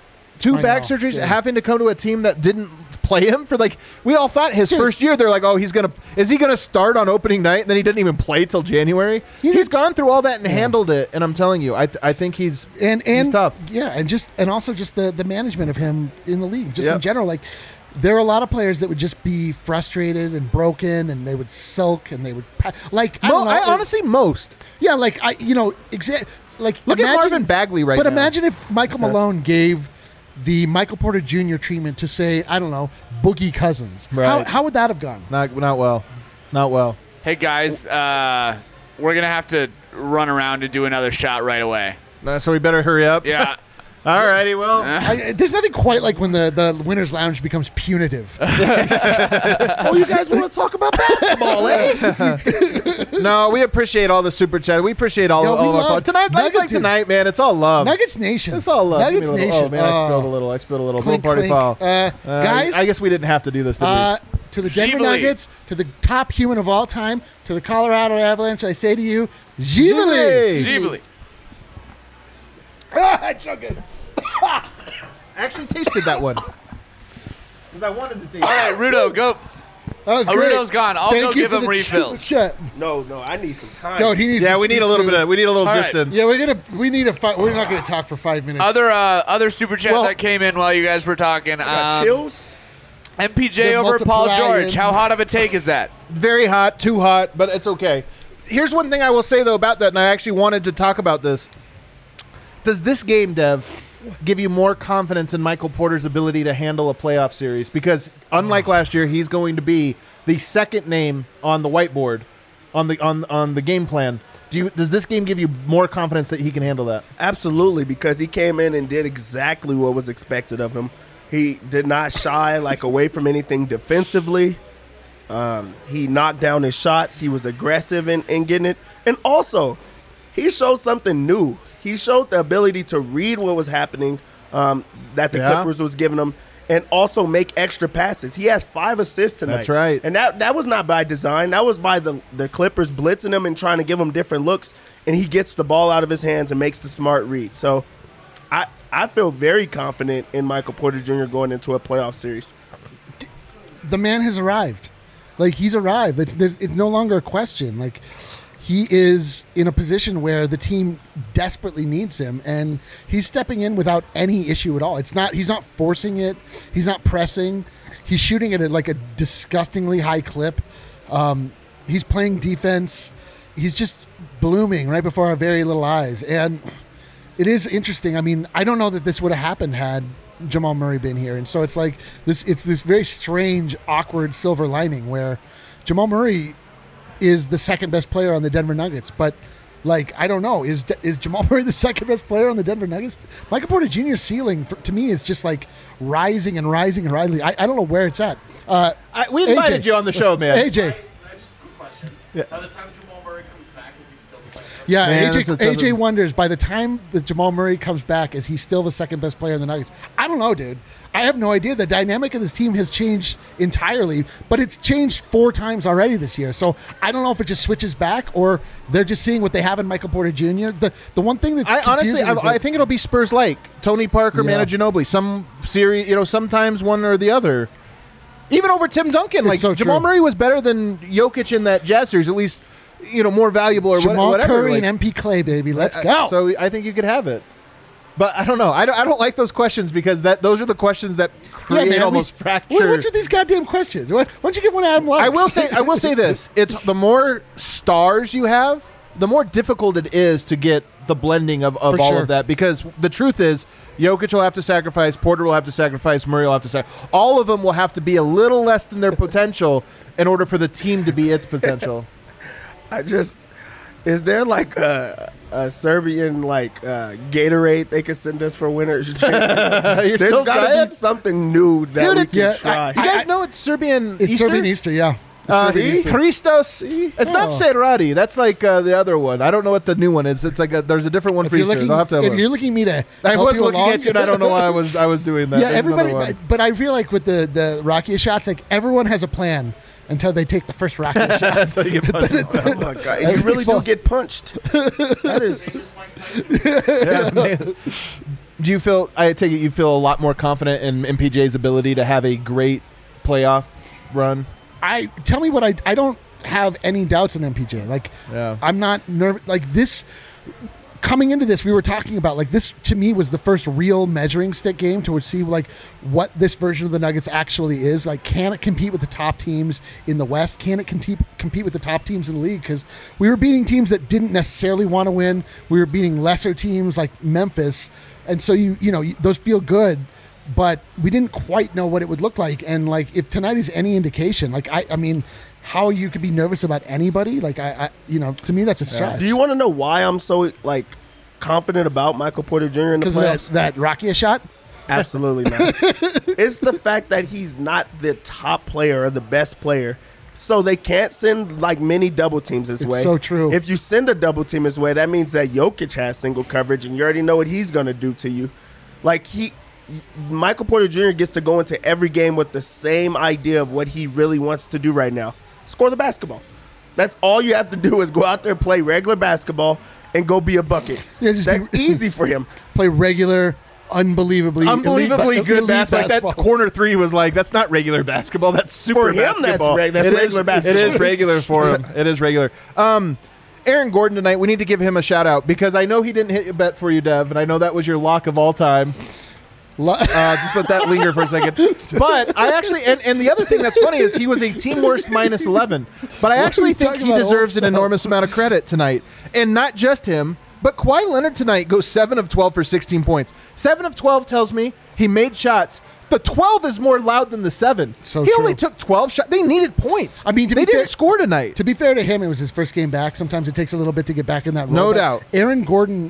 I Back know, surgeries, yeah. having to come to a team that didn't play him for, like, we all thought his Dude. first year, they're like, oh, is he gonna start on opening night? And then he didn't even play till January. He He's did- gone through all that and handled it, and I'm telling you, I think he's tough. Yeah, and also just the management of him in the league, just Yep. in general. Like, there are a lot of players that would just be frustrated and broken, and they would sulk, and they would like. I don't know, honestly, most. yeah, like like Look at Marvin Bagley right But now. imagine if Michael Malone gave the Michael Porter Jr. treatment to, say, I don't know, Boogie Cousins. Right. How would that have gone? Not well. Not well. Hey guys, we're gonna have to run around and do another shot right away. So we better hurry up. Yeah. All righty, well. There's nothing quite like when the winner's lounge becomes punitive. Oh, you guys want to talk about basketball, eh? No, we appreciate all the super chat. We appreciate all Yo, of we our love fun. Tonight, Nuggets, like dude. tonight, man, it's all love. Nuggets Nation. It's all love. Nuggets Give me a little- Nation. Oh, man, I spilled a little. Little Clink, party clink. foul. Guys, I guess we didn't have to do this, did we? to the Denver Gively. Nuggets, to the top human of all time, to the Colorado Avalanche, I say to you, Gively. Gively. Ah, it's so good. I actually tasted that one. Because I wanted to taste All right, Rudo, go. That was Oh, great. Rudo's gone. I'll Thank go you give for him the refills. chat. No, I need some time. Dude, he needs. Yeah, we need a little bit of. We need a little All right. distance. Yeah, we need a. We're not going to talk for 5 minutes. Other super chat Well- that came in while you guys were talking. Got chills? MPJ The over Paul multiplying. George. How hot of a take is that? Very hot, too hot, but it's okay. Here's one thing I will say though about that, and I actually wanted to talk about this. Does this game, Dev, give you more confidence in Michael Porter's ability to handle a playoff series? Because unlike last year, he's going to be the second name on the whiteboard on the game plan. Does this game give you more confidence that he can handle that? Absolutely, because he came in and did exactly what was expected of him. He did not shy away from anything defensively. He knocked down his shots. He was aggressive in getting it. And also, he showed something new. He showed the ability to read what was happening that the Yeah. Clippers was giving him and also make extra passes. He has 5 assists tonight. That's right. And that was not by design. That was by the Clippers blitzing him and trying to give him different looks. And he gets the ball out of his hands and makes the smart read. So I feel very confident in Michael Porter Jr. going into a playoff series. The man has arrived. Like, he's arrived. It's no longer a question. Like, he is in a position where the team desperately needs him, and he's stepping in without any issue at all. He's not forcing it. He's not pressing. He's shooting it at like a disgustingly high clip. He's playing defense. He's just blooming right before our very little eyes. And it is interesting. I mean, I don't know that this would have happened had Jamal Murray been here. And so it's like this. It's this very strange, awkward silver lining where Jamal Murray is the second best player on the Denver Nuggets. But, like, I don't know. Is Jamal Murray the second best player on the Denver Nuggets? Michael Porter Jr.'s ceiling, to me, is just, like, rising and rising and rising. I don't know where it's at. We invited AJ. you on the show, man. AJ. Just a quick question. By the time Jamal Murray comes back, is he still the second best? Yeah, Man, AJ, that's a- AJ wonders, by the time that Jamal Murray comes back, is he still the second best player in the Nuggets? I don't know, dude. I have no idea. The dynamic of this team has changed entirely, but it's changed 4 times already this year. So I don't know if it just switches back or they're just seeing what they have in Michael Porter Jr. The one thing that's I honestly, confusing is I that- think it'll be Spurs like Tony Parker, Yeah. Manu Ginobili. Some series, sometimes one or the other. Even over Tim Duncan, It's like so Jamal true. Murray was better than Jokic in that Jazz series, at least more valuable or Jamal whatever. Curry like, and MP Clay, baby. Let's go. So I think you could have it. But I don't know. I don't like those questions because those are the questions that create almost fracture. What's with these goddamn questions? Why don't you give one to Adam Lux? I will say this: it's the more stars you have, the more difficult it is to get the blending of all sure. of that, because the truth is Jokic will have to sacrifice, Porter will have to sacrifice, Murray will have to sacrifice. All of them will have to be a little less than their potential in order for the team to be its potential. Is there like a Serbian Gatorade they could send us for winners? There's still got to trying? be something new that Dude, we it's- can try. You guys know it's Serbian It's Easter? Serbian Easter, yeah. See? Christos. It's not Oh. Serrati. That's like the other one. I don't know what the new one is. It's like there's a different one If for you're Easter. looking, I'll have to have a if look. you're looking at me to I help was you looking along, at you, and I don't know why I was doing that. Yeah, There's another everybody. one. But I feel like with the Rakia shots, like everyone has a plan until they take the first Rakia shot. That's how you get punched. Oh my god! And you really do get punched. That is. Yeah, man. Do you feel? I take it you feel a lot more confident in MPJ's ability to have a great playoff run. Tell me what I don't have any doubts in MPJ. Like Yeah. I'm not nervous. Like this. Coming into this, we were talking about like this to me was the first real measuring stick game to see like what this version of the Nuggets actually is. Like, can it compete with the top teams in the West? Can it compete with the top teams in the league? Because we were beating teams that didn't necessarily want to win. We were beating lesser teams like Memphis, and so you know those feel good, but we didn't quite know what it would look like. And like if tonight is any indication, like I mean, how you could be nervous about anybody? Like I to me that's a stretch. Do you want to know why I'm so confident about Michael Porter Jr. in the Because playoffs? of that Rakia shot? Absolutely not. It's the fact that he's not the top player or the best player. So they can't send many double teams his It's way. so true. If you send a double team his way, that means that Jokic has single coverage, and you already know what he's going to do to you. Michael Porter Jr. gets to go into every game with the same idea of what he really wants to do right now: score the basketball. That's all you have to do is go out there, play regular basketball, and go be a bucket. Yeah, just That's be- easy for him. Play regular, unbelievably Unbelievably good elite basketball. Like that basketball. corner three was that's not regular basketball. That's super For him, that's basketball. that's It is- regular basketball. It is regular for him. It is regular. Aaron Gordon tonight, we need to give him a shout out because I know he didn't hit a bet for you, Dev, and I know that was your lock of all time. Just let that linger for a second. But I actually, and the other thing that's funny is he was a team worst minus 11. But I What are actually you think talking he about, deserves old an stuff? enormous amount of credit tonight. And not just him, but Kawhi Leonard tonight goes 7 of 12 for 16 points. 7 of 12 tells me he made shots. The 12 is more loud than the 7. So he true. only took 12 shots. They needed points. I mean, to they be didn't fair- score tonight. To be fair to him, it was his first game back. Sometimes it takes a little bit to get back in that role. No but doubt. Aaron Gordon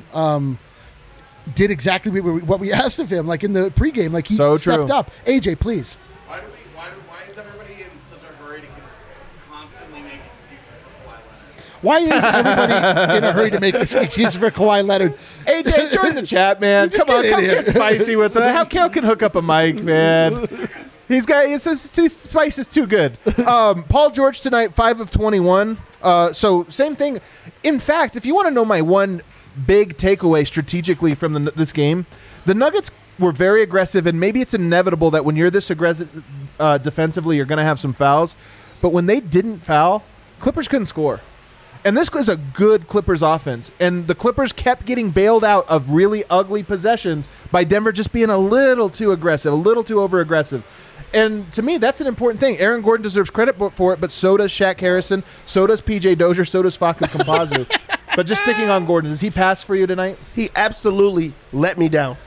did exactly what we asked of him, like in the pregame. Like he So stepped true. up. AJ, please. Why is everybody in such a hurry to constantly make excuses for Kawhi Leonard? Why is everybody in a hurry to make excuses for Kawhi Leonard? AJ, join the chat, man. Just Come on, get in come here. get spicy with it. How Cal can hook up a mic, man? His spice is too good. Paul George tonight, 5 of 21. So same thing. In fact, if you want to know my one big takeaway strategically from this game, the Nuggets were very aggressive, and maybe it's inevitable that when you're this aggressive defensively, you're going to have some fouls. But when they didn't foul, Clippers couldn't score. And this is a good Clippers offense. And the Clippers kept getting bailed out of really ugly possessions by Denver just being a little too aggressive, a little too over-aggressive. And to me, that's an important thing. Aaron Gordon deserves credit for it, but so does Shaq Harrison, so does P.J. Dozier, so does Facu Campazzo. But just sticking on Gordon, does he pass for you tonight? He absolutely let me down.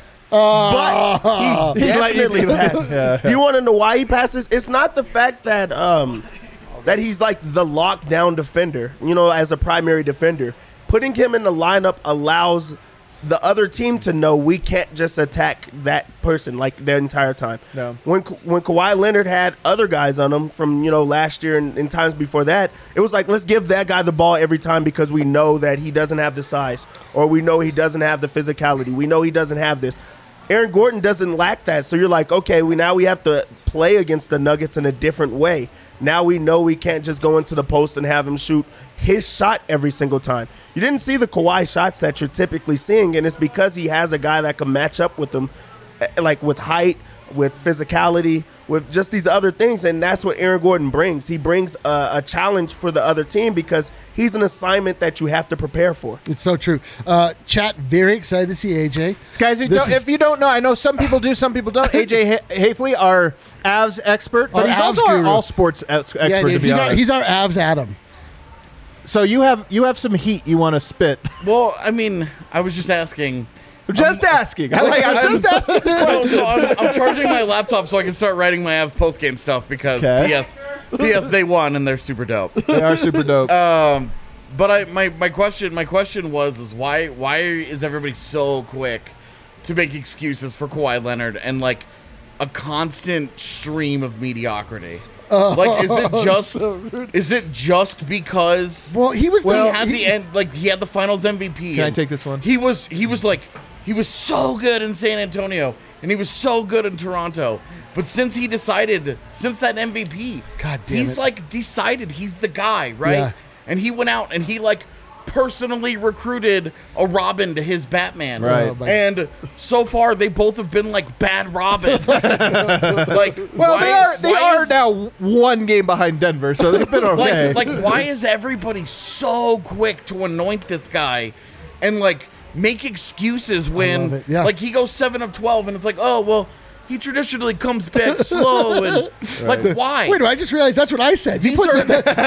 But he definitely passes. Yeah. Do you want to know why he passes? It's not the fact that that he's like the lockdown defender, as a primary defender. Putting him in the lineup allows the other team to know we can't just attack that person the entire time. No. When Kawhi Leonard had other guys on him from last year and times before that, it was like, let's give that guy the ball every time because we know that he doesn't have the size, or we know he doesn't have the physicality, we know he doesn't have this. Aaron Gordon doesn't lack that, so you're like, okay, we have to play against the Nuggets in a different way. Now we know we can't just go into the post and have him shoot his shot every single time. You didn't see the Kawhi shots that you're typically seeing, and it's because he has a guy that can match up with him, with height, with physicality, with just these other things, and that's what Aaron Gordon brings. He brings a challenge for the other team because he's an assignment that you have to prepare for. It's so true. Chat, very excited to see AJ. Guys, if you don't know, I know some people do, some people don't. AJ Hafley, our Avs expert, but Our he's Avs also our guru. all sports expert, Yeah, to dude, be honest. he's our Avs Adam. So you have some heat you want to spit. Well, I mean, I was just asking. I'm just asking. I'm just asking. No, so I'm charging my laptop so I can start writing my Avs postgame stuff because Okay. PS they won and they're super dope. They are super dope. But my question was why is everybody so quick to make excuses for Kawhi Leonard and like a constant stream of mediocrity? Like, is it just because? Well, he was he had the end, like he had the Finals MVP. Can I and take this one? He was so good in San Antonio and he was so good in Toronto. But since that MVP, God damn he's it. like decided he's the guy, right? Yeah. And he went out and he like personally recruited a Robin to his Batman. Right. Oh, my- And so far they both have been like bad Robins. Like, Well, they why are is- now one game behind Denver, so they've been okay. like why is everybody so quick to anoint this guy and like make excuses love when it, yeah. like he goes 7 of 12 and it's like, oh well, he traditionally comes back slow and like why? Wait, I just realized that's what I said. You These put are,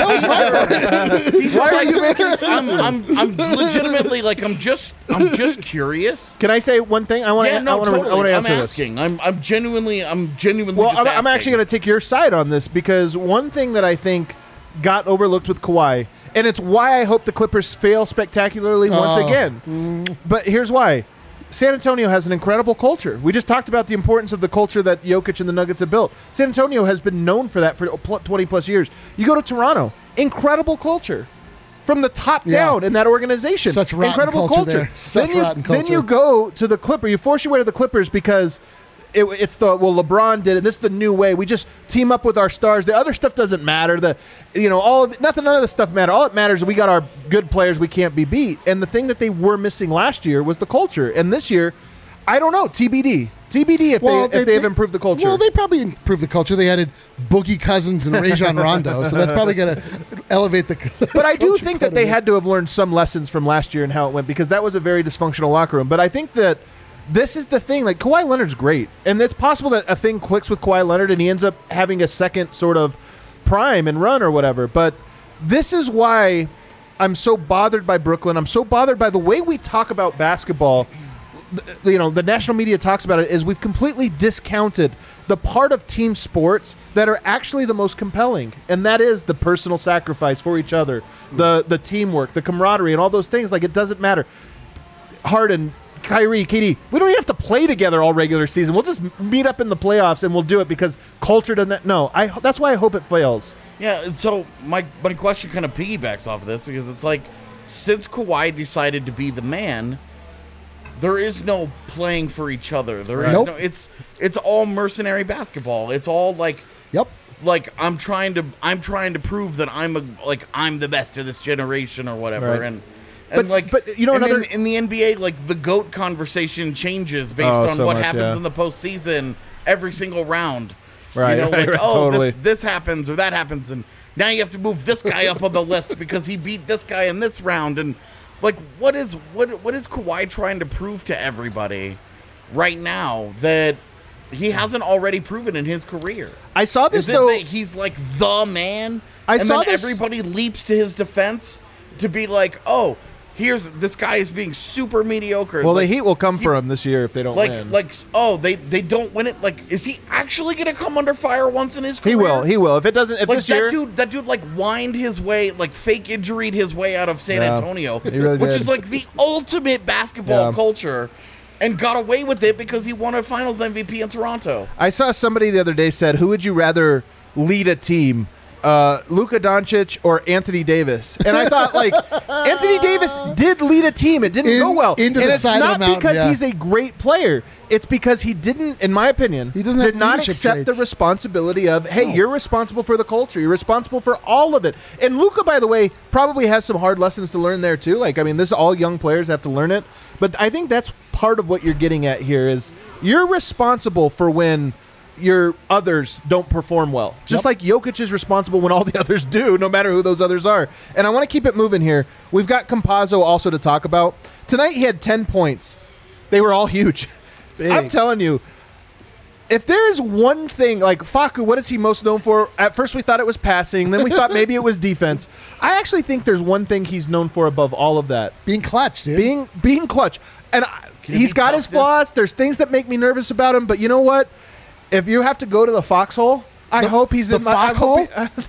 that- these Why are are you making I'm legitimately like I'm just curious. Can I say one thing? I want to. Yeah, no, I want to totally. I'm answer this. asking. I'm genuinely. Well, just I'm actually going to take your side on this because one thing that I think got overlooked with Kawhi, and it's why I hope the Clippers fail spectacularly once again. But here's why. San Antonio has an incredible culture. We just talked about the importance of the culture that Jokic and the Nuggets have built. San Antonio has been known for that for 20-plus years. You go to Toronto, incredible culture. From the top Yeah. down in that organization. Such rotten incredible culture there. Such Then rotten then you culture. go to the Clippers. You force your way to the Clippers because it's LeBron did it. This is the new way. We just team up with our stars. The other stuff doesn't matter. None of the stuff matter. All that matters is we got our good players. We can't be beat. And the thing that they were missing last year was the culture. And this year, I don't know. TBD if they have improved the culture. Well, they probably improved the culture. They added Boogie Cousins and Rajon Rondo, so that's probably going to elevate the. But I do culture think quite that a they bit. had to have learned some lessons from last year and how it went because that was a very dysfunctional locker room. But I think that this is the thing. Like, Kawhi Leonard's great. And it's possible that a thing clicks with Kawhi Leonard and he ends up having a second sort of prime and run or whatever. But this is why I'm so bothered by Brooklyn. I'm so bothered by the way we talk about basketball. The national media talks about it is we've completely discounted the part of team sports that are actually the most compelling, and that is the personal sacrifice for each other, the teamwork, the camaraderie, and all those things. Like, it doesn't matter. Harden, Kyrie, KD, we don't even have to play together all regular season. We'll just meet up in the playoffs and we'll do it because culture doesn't. No, that's why I hope it fails. Yeah, and so my question kind of piggybacks off of this because it's like since Kawhi decided to be the man, there is no playing for each other. There is Nope. no. It's all mercenary basketball. It's all like Yep. like I'm trying to prove that I'm the best of this generation or whatever. Right. And But another in the NBA, like the GOAT conversation changes based Oh, on so what much, happens yeah. in the postseason every single round. Right, You know, right, like, right, oh, totally. this happens or that happens, and now you have to move this guy up on the list because he beat this guy in this round. And like, what is Kawhi trying to prove to everybody right now that he hasn't already proven in his career? I saw this Is it though. that he's like the man? I and saw then this- everybody leaps to his defense to be like, oh, here's this guy is being super mediocre. Well, like, the heat will come for him this year if they don't win. they don't win it. Like, is he actually gonna come under fire once in his career? He will. If it doesn't, if Like this year, that dude like whined his way, like fake injuried his way out of San Yeah, Antonio, he really which did. is like the ultimate basketball Yeah. culture, and got away with it because he won a Finals MVP in Toronto. I saw somebody the other day said, "Who would you rather lead a team, Luka Doncic or Anthony Davis?" And I thought, like, Anthony Davis did lead a team. It didn't go well, into and the it's side of not the mountain, because yeah. he's a great player. It's because he didn't, in my opinion, He doesn't did have not leadership accept the traits. responsibility of, hey, you're responsible for the culture. You're responsible for all of it. And Luka, by the way, probably has some hard lessons to learn there too. Like, I mean, this all young players have to learn it. But I think that's part of what you're getting at here is you're responsible for when your others don't perform well. Just like Jokic is responsible when all the others do, no matter who those others are. And I want to keep it moving here. We've got Campazzo also to talk about. Tonight he had 10 points. They were all huge. I'm telling you, if there is one thing, like Facu, what is he most known for? At first we thought it was passing, then we thought maybe it was defense. I actually think there's one thing he's known for above all of that. Being clutch, dude. Being clutch. And he's got his flaws. There's things that make me nervous about him, but you know what? If you have to go to the foxhole, I hope he's in my foxhole.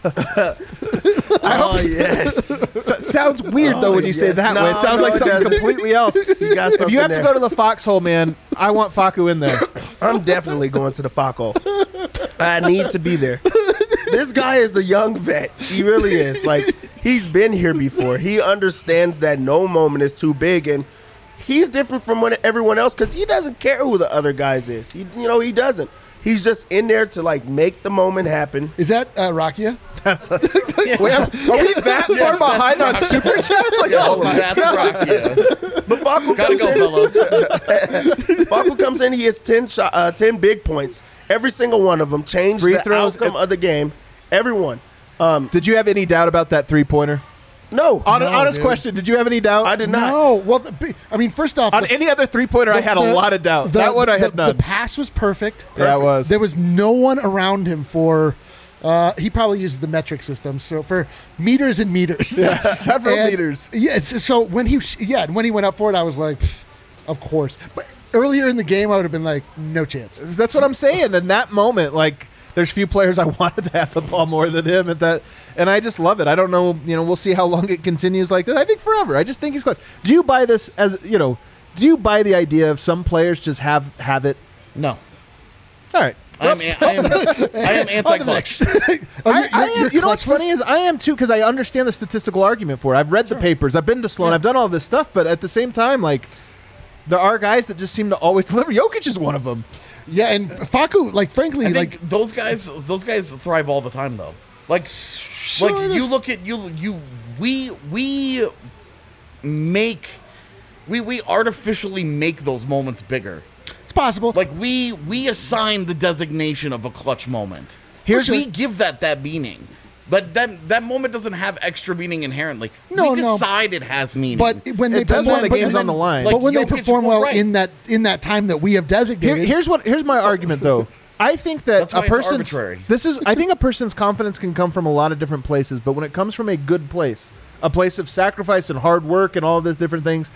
Oh, yes. That sounds weird though when you say it that way. It sounds like something completely else. You got If you have something to go to the foxhole, man, I want Facu in there. I'm definitely going to the foxhole. I need to be there. This guy is a young vet. He really is. Like, he's been here before. He understands that no moment is too big, and he's different from everyone else because he doesn't care who the other guys is. He doesn't. He's just in there to, like, make the moment happen. Is that Rakia? Wait, are we that far behind on super chats? Like, Oh, that's Rakia. But Facu Gotta go, fellas. Facu comes in, he hits 10 big points. Every single one of them changed Free the throws outcome of the game. Everyone. Did you have any doubt about that 3-pointer? No. Honest dude. question. Did you have any doubt? I did not. No. Well, first off, On any other 3-pointer, I had a lot of doubt. That one I had none. The pass was perfect. Yeah, it was. There was no one around him for. He probably used the metric system, so for meters and meters. Several meters. Yeah. So when he went up for it, I was like, of course. But earlier in the game, I would have been like, no chance. That's what I'm saying. In that moment, like, there's few players I wanted to have the ball more than him at that, and I just love it. I don't know, we'll see how long it continues like this. I think forever. I just think he's clutch. Do you buy this as, do you buy the idea of some players just have it? No. All right. I am anti-clutch. I am. You know what's funny is I am too, because I understand the statistical argument for it. I've read the papers. I've been to Sloan. I've done all this stuff, but at the same time, like, there are guys that just seem to always deliver. Jokic is one of them. Yeah, and Facu, like, frankly, I think those guys thrive all the time though. Like you look at we artificially make those moments bigger. it's possible. Like we assign the designation of a clutch moment. We give that meaning. But that moment doesn't have extra meaning inherently. We decide it has meaning. But when they does perform, when the game's on the line. But when they Jokic, perform well right. in that time that we have designated, Here's my argument though. I think that That's why a it's person's arbitrary. I think a person's confidence can come from a lot of different places, but when it comes from a good place, a place of sacrifice and hard work and all of these different things,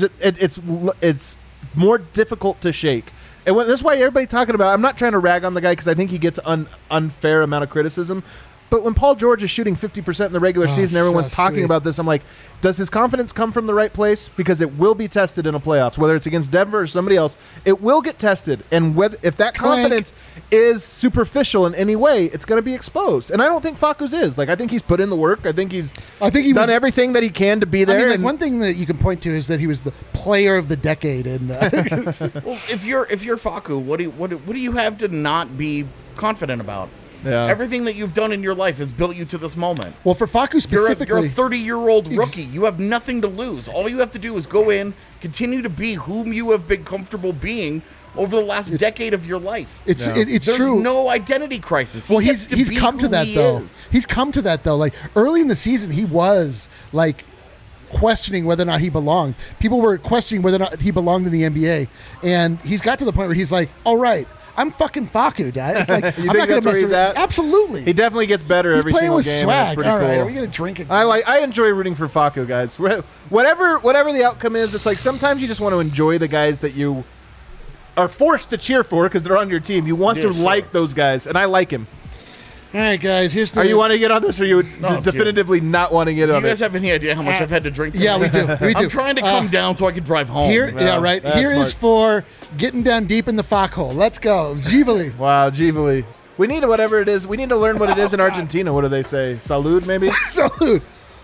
it's more difficult to shake. And that's why everybody's talking about. I'm not trying to rag on the guy because I think he gets unfair amount of criticism. But when Paul George is shooting 50% in the regular season, everyone's talking sweet. about this. I'm like, does his confidence come from the right place? Because it will be tested in a playoffs, whether it's against Denver or somebody else. It will get tested, and if that confidence is superficial in any way, it's going to be exposed. And I don't think Facu's is. Like, I think he's put in the work. I think he's done everything that he can to be there. I mean, like, one thing that you can point to is that he was the player of the decade. And well, if you're Facu, what do you have to not be confident about? Yeah. Everything that you've done in your life has built you to this moment. well, for Facu specifically, You're a 30-year-old rookie. You have nothing to lose. All you have to do is go in, continue to be whom you have been comfortable being over the last decade of your life. it's There's true. no identity crisis. Well, gets he's be come to who that he though. is. He's come to that though. Like early in the season, he was like questioning whether or not he belonged. People were questioning whether or not he belonged in the NBA, and he's got to the point where he's like, "All right, I'm fucking Facu, guys. Like, You I'm think not going that's where to he's at? Absolutely. he definitely gets better He's every playing single with game. swag. And it's pretty All right, cool. are we going to drink again? I enjoy rooting for Facu, guys. Whatever the outcome is, it's like sometimes you just want to enjoy the guys that you are forced to cheer for because they're on your team. You want to like those guys, and I like him. All right, guys. Here's the. Are you want to get on this, or you No, definitively not want to get You on guys it? have any idea how much I've had to drink? Yeah, we do. We do. I'm trying to come down so I can drive home. Here, yeah, right. that's Here is smart. for getting down deep in the foxhole. Let's go, Zivali. Wow, Givali. We need whatever it is. We need to learn what it is in Argentina. What do they say? Salud, maybe? Salute.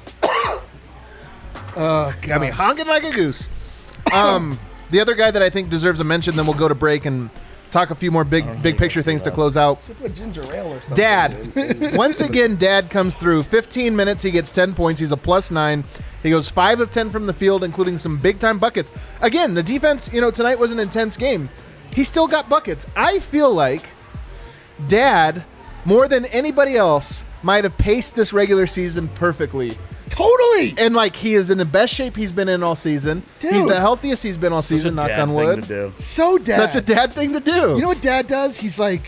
Got me honking like a goose. The other guy that I think deserves a mention, then we'll go to break and talk a few more big picture things to close out. Put ginger ale or something. Dad. Once again, Dad comes through. 15 minutes, he gets 10 points. He's a +9. He goes 5 of 10 from the field, including some big-time buckets. Again, the defense, tonight was an intense game. He still got buckets. I feel like Dad, more than anybody else, might have paced this regular season perfectly. Totally. And like he is in the best shape he's been in all season. Dude. He's the healthiest he's been all season. Knock Dad on thing wood. to do. So dad. Such a dad thing to do. You know what dad does? He's like,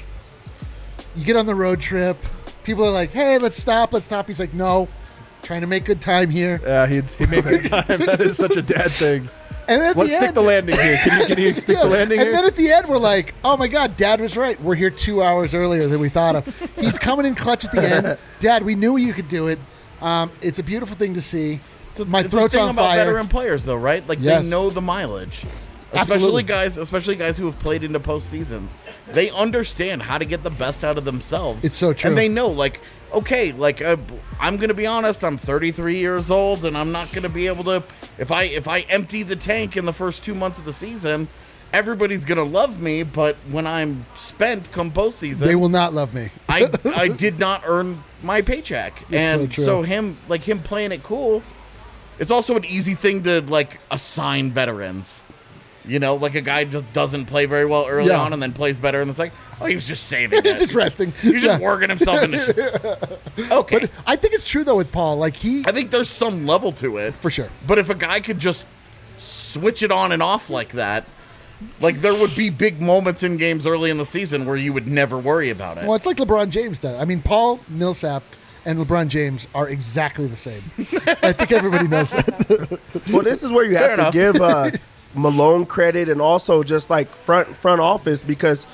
you get on the road trip. People are like, hey, let's stop. He's like, no, trying to make good time here. Yeah, he made good time. That is such a dad thing. And then at Let's the stick end, the landing here. Can you stick the landing and here? then at the end, we're like, oh my God, Dad was right. We're here 2 hours earlier than we thought of. He's coming in clutch at the end. Dad, we knew you could do it. It's a beautiful thing to see. My It's throat's the thing on about fire. veteran players, though, right? Like Yes. they know the mileage, Absolutely. especially guys who have played into postseasons. They understand how to get the best out of themselves. It's so true. and they know, like, okay, like I'm gonna be honest. I'm 33 years old, and I'm not gonna be able to. If I empty the tank in the first 2 months of the season, everybody's gonna love me. But when I'm spent come postseason, They will not love me. I did not earn my paycheck, and so so, true. him playing it cool. It's also an easy thing to like assign veterans. You know, like a guy just doesn't play very well early Yeah. on and then plays better in the second. Oh, he was just saving He's it. just resting. He's just Yeah. working himself into shit. Okay. But I think it's true, though, with Paul. Like, I think there's some level to it. for sure. But if a guy could just switch it on and off like that, like there would be big moments in games early in the season where you would never worry about it. Well, it's like LeBron James does. I mean, Paul Millsap and LeBron James are exactly the same. I think everybody knows that. Well, this is where you Fair have to enough. give Malone credit and also just like front office, because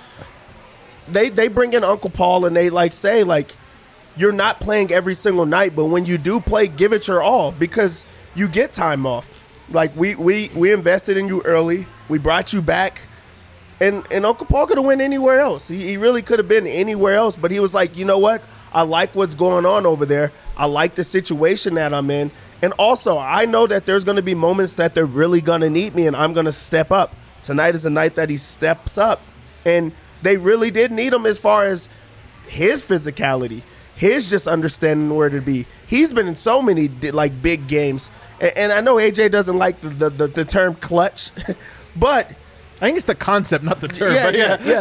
they bring in Uncle Paul and they like say like, you're not playing every single night, but when you do play, give it your all because you get time off. Like we invested in you early, we brought you back, and Uncle Paul could have went anywhere else. He really could have been anywhere else, but he was like, you know what? I like what's going on over there. I like the situation that I'm in. And also, I know that there's going to be moments that they're really going to need me, and I'm going to step up. Tonight is a night that he steps up. And they really did need him as far as his physicality, his just understanding where to be. He's been in so many like big games. And I know AJ doesn't like the term clutch, but I think it's the concept, not the term. yeah, but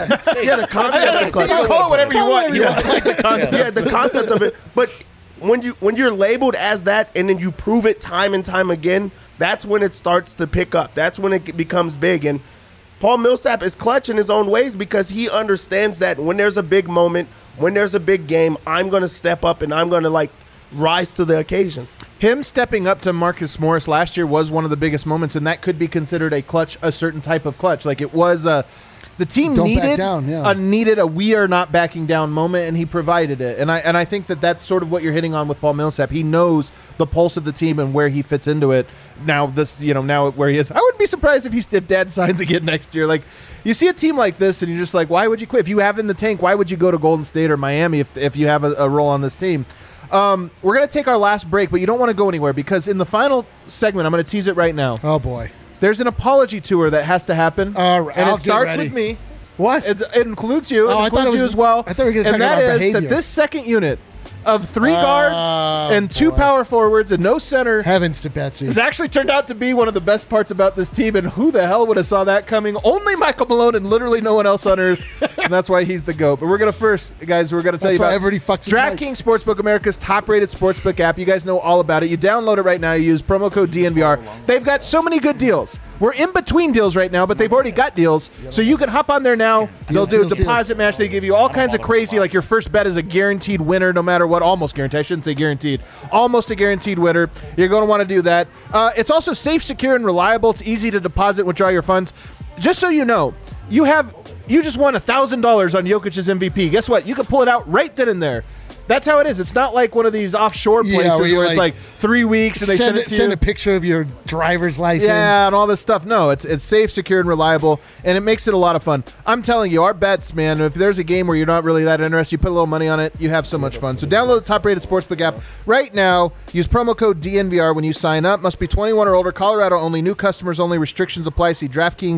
the concept of clutch. You can call it whatever you want. You like the concept. Yeah, the concept of it. But when you're labeled as that and then you prove it time and time again, that's when it starts to pick up. That's when it becomes big. And Paul Millsap is clutch in his own ways because he understands that when there's a big moment, when there's a big game, I'm going to step up and I'm going to like rise to the occasion. Him stepping up to Marcus Morris last year was one of the biggest moments, and that could be considered a clutch, a certain type of clutch. Like it was the team Don't back needed down, yeah. needed a we are not backing down moment, and he provided it. And I think that that's sort of what you're hitting on with Paul Millsap. He knows the pulse of the team and where he fits into it. Now now where he is, I wouldn't be surprised if Dad signs again next year. Like you see a team like this, and you're just like, why would you quit? If you have in the tank, why would you go to Golden State or Miami if you have a role on this team? We're going to take our last break, but you don't want to go anywhere because in the final segment, I'm going to tease it right now. Oh, boy. There's an apology tour that has to happen, All right, and I'll it get starts ready. with me. What? It includes you. Oh, It I thought includes it was- you as well. I thought we were gonna and talk that about is behavior. that this second unit of 3 Oh, guards and 2 boy. power forwards and no center Heavens to Betsy. has actually turned out to be one of the best parts about this team. And who the hell would have saw that coming? Only Michael Malone and literally no one else on earth. And that's why he's the GOAT. But we're going to tell That's you why about everybody fucks with DraftKings Sportsbook, America's top-rated sportsbook app. You guys know all about it. You download it right now. You use promo code DNVR. They've got so many good deals. We're in between deals right now, but they've already got deals. So you can hop on there now. They'll do a deals. deposit match. They give you all kinds of crazy, like your first bet is a guaranteed winner no matter what. Almost guaranteed. I shouldn't say guaranteed. Almost a guaranteed winner. You're going to want to do that. It's also safe, secure, and reliable. It's easy to deposit and withdraw your funds. Just so you know, you just won $1,000 on Jokic's MVP. Guess what? You can pull it out right then and there. That's how it is. It's not like one of these offshore Yeah, places where you're where it's like, like 3 weeks and they send it to send you. a picture of your driver's license. Yeah, and all this stuff. No, it's safe, secure, and reliable, and it makes it a lot of fun. I'm telling you, our bets, man, if there's a game where you're not really that interested, you put a little money on it, you have so much fun. So download the top-rated sportsbook app right now. Use promo code DNVR when you sign up. Must be 21 or older. Colorado only. New customers only. Restrictions apply. See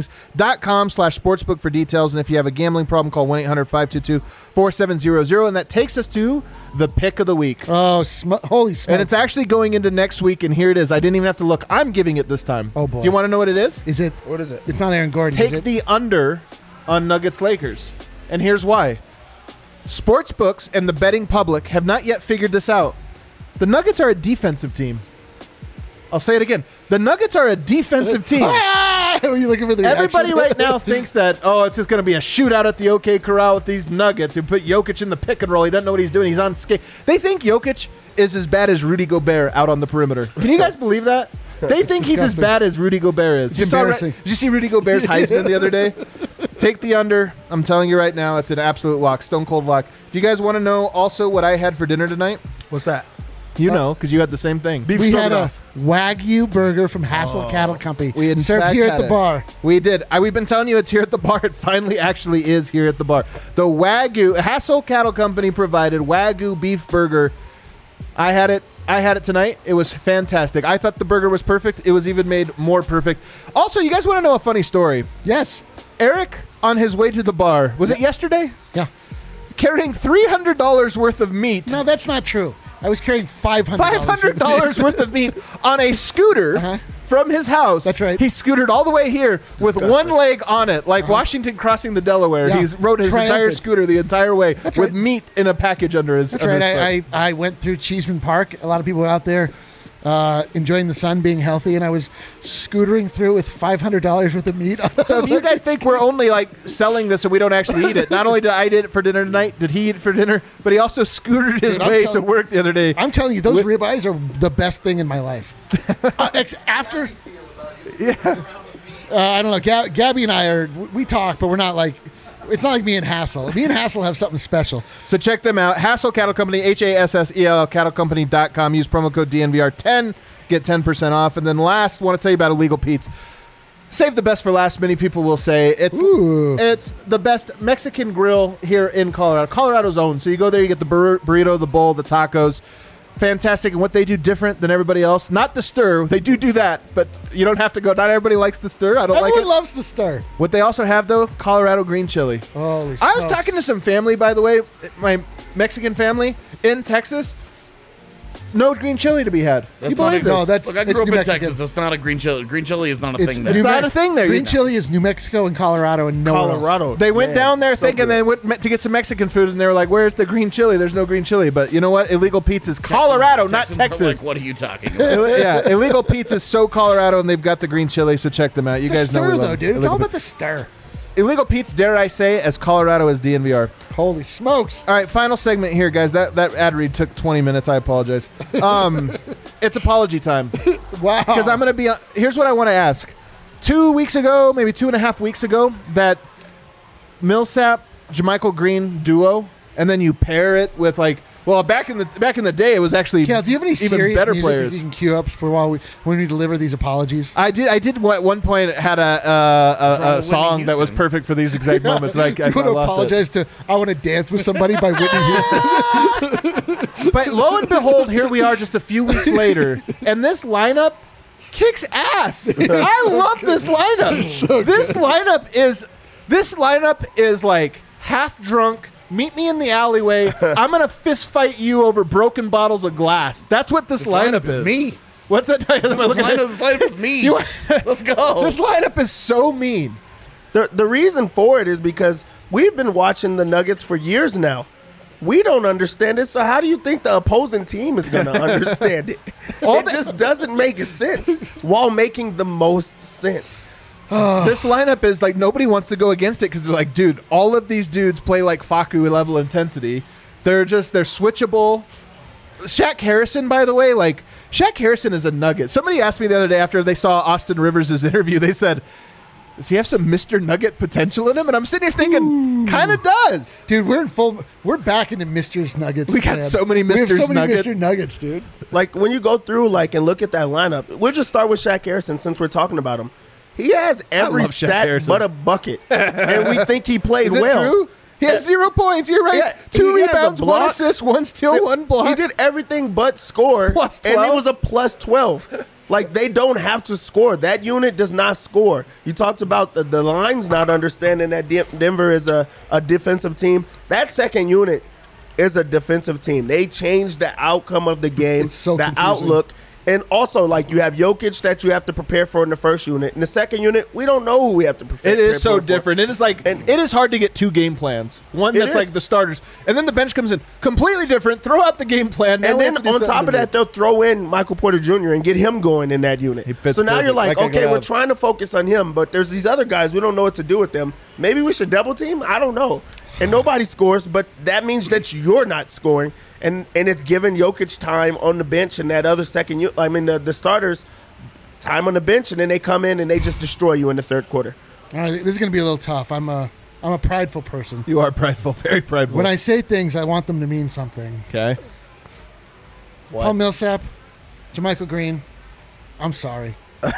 DraftKings.com/sportsbook for details. And if you have a gambling problem, call 1-800-522-4700. And that takes us to the pick of the week. Oh, holy smokes. And it's actually going into next week, and here it is. I didn't even have to look. I'm giving it this time. Oh, boy. Do you want to know what it is? Is it? What is it? It's not Aaron Gordon, is Take it? the under on Nuggets Lakers. And here's why. Sports books and the betting public have not yet figured this out. The Nuggets are a defensive team. I'll say it again. The Nuggets are a defensive team. Were you looking for the reaction? Everybody right now thinks that, it's just going to be a shootout at the OK Corral with these Nuggets. You put Jokic in the pick and roll. He doesn't know what he's doing. He's on skate. They think Jokic is as bad as Rudy Gobert out on the perimeter. Can you guys believe that? They think he's as bad as Rudy Gobert is. It's embarrassing. Did you see Rudy Gobert's Heisman the other day? Take the under. I'm telling you right now, it's an absolute lock, stone cold lock. Do you guys want to know also what I had for dinner tonight? What's that? You know, because you had the same thing. Beef We had a stroganoff. Wagyu burger from Hassel Cattle Company. We in served fact here at had the it. bar. We did. We've been telling you it's here at the bar. It finally actually is here at the bar. The Wagyu, Hassel Cattle Company provided Wagyu beef burger. I had it tonight. It was fantastic. I thought the burger was perfect. It was even made more perfect. Also, you guys want to know a funny story? Yes. Eric, on his way to the bar, was it yesterday? Yeah. Carrying $300 worth of meat. No, that's not true. I was carrying $500. $500 worth of meat on a scooter Uh-huh. from his house. That's right. He scootered all the way here with disgusting. one leg on it, like Washington crossing the Delaware. Yeah. He's rode his entire Triumphant. scooter the entire way That's with right. meat in a package under his. That's under right. his foot. I went through Cheeseman Park. A lot of people were out there enjoying the sun, being healthy, and I was scootering through with $500 worth of meat. So if you guys think we're only like selling this and we don't actually eat it, not only did I eat it for dinner tonight, did he eat it for dinner, but he also scootered his Dude, I'm way to telling- work the other day. I'm telling you, those With- ribeyes are the best thing in my life. After, I don't know. Gabby and I we talk, but we're not like. It's not like me and Hassel. Me and Hassel have something special. So check them out. Hassel Cattle Company, HASSEL cattlecompany.com. Use promo code DNVR10. Get 10% off. And then last, want to tell you about Illegal Pete's. Save the best for last, many people will say. It's the best Mexican grill here in Colorado. Colorado's own. So you go there, you get the burrito, the bowl, the tacos. Fantastic. And what they do different than everybody else, not the stir. They do that, but you don't have to go. Not everybody likes the stir. I don't like Everyone it. loves the stir. What they also have, though, Colorado green chili. Holy I was smokes. talking to some family, by the way, my Mexican family in Texas. No green chili to be had. That's You not believe a- this? No, that's Look, I it's grew up New in Mexico. Texas. That's not a green chili. Green chili is not a It's thing New there. It's not Mex- a thing there. Green chili is New Mexico and Colorado and nowhere else. Colorado. They went Man, down there so thinking good. they went to get some Mexican food, and they were like, "Where's the green chili? There's no green chili." But you know what? Illegal Pete's is Colorado, not Texans are Texas. Like, what are you talking about? Yeah, Illegal Pete's is so Colorado, and they've got the green chili. So check them out. You The guys know we stir, love though, dude. It's Illegal all Pete's. about the stir. Illegal Pete's, dare I say, as Colorado as DNVR. Holy smokes. All right, final segment here, guys. That ad read took 20 minutes. I apologize. It's apology time. Wow. Because I'm going to be here's what I want to ask. 2 weeks ago, maybe 2.5 weeks ago, that Millsap, JaMychal Green duo, and then you pair it with back in the day, it was actually Cal, do you have any even serious better music players. that you can cue up for when we deliver these apologies? I did at one point had a Whitney song that was Houston. perfect for these exact moments. But Do you want to apologize to I Want to Dance with Somebody by Whitney Houston? But lo and behold, here we are just a few weeks later, and this lineup kicks ass. I love this lineup. This lineup is like half drunk. Meet me in the alleyway. I'm gonna fist fight you over broken bottles of glass. That's what this lineup is. Me. What's that? This lineup is me. Let's go. This lineup is so mean. The reason for it is because we've been watching the Nuggets for years now. We don't understand it, so how do you think the opposing team is going to understand it? It just doesn't make sense while making the most sense. This lineup is like nobody wants to go against it because they're like, dude, all of these dudes play like Facu level intensity. They're switchable. Shaq Harrison, by the way, Shaq Harrison is a nugget. Somebody asked me the other day after they saw Austin Rivers' interview, they said, does he have some Mr. Nugget potential in him? And I'm sitting here thinking, kind of does. Dude, we're back into Mr. Nuggets. We got man. so many We have Mr. so many Nugget. Mr. Nuggets, dude. Like, when you go through, and look at that lineup, we'll just start with Shaq Harrison since we're talking about him. He has every love Shaq stat Harrison. but a bucket, and we think he plays Is it well. true? He has 0 points. You're right. Yeah, 2 he has a rebounds, 1 block. assist, 1 steal, 1 block. He did everything but score, Plus and 12. it was a plus 12. They don't have to score. That unit does not score. You talked about the lines not understanding that Denver is a defensive team. That second unit is a defensive team. They changed the outcome of the game, It's so the confusing. outlook, And also, like, you have Jokic that you have to prepare for in the first unit. In the second unit, we don't know who we have to prepare. It is so for. different. It is like it is hard to get 2 game plans. One It that's is. like the starters, and then the bench comes in completely different. Throw out the game plan, now And we then have to do on top something of that, they'll throw in Michael Porter Jr. and get him going in that unit. He fits So now you're perfect. like, That guy okay, can we're have- trying to focus on him, but there's these other guys. We don't know what to do with them. Maybe we should double team? I don't know. And nobody scores, but that means that you're not scoring. And it's giving Jokic time on the bench and that other second unit. I mean, the starters time on the bench, and then they come in and they just destroy you in the third quarter. All right, this is going to be a little tough. I'm a prideful person. You are prideful, very prideful. When I say things, I want them to mean something. okay, Paul Millsap, Jermichael Green, I'm sorry.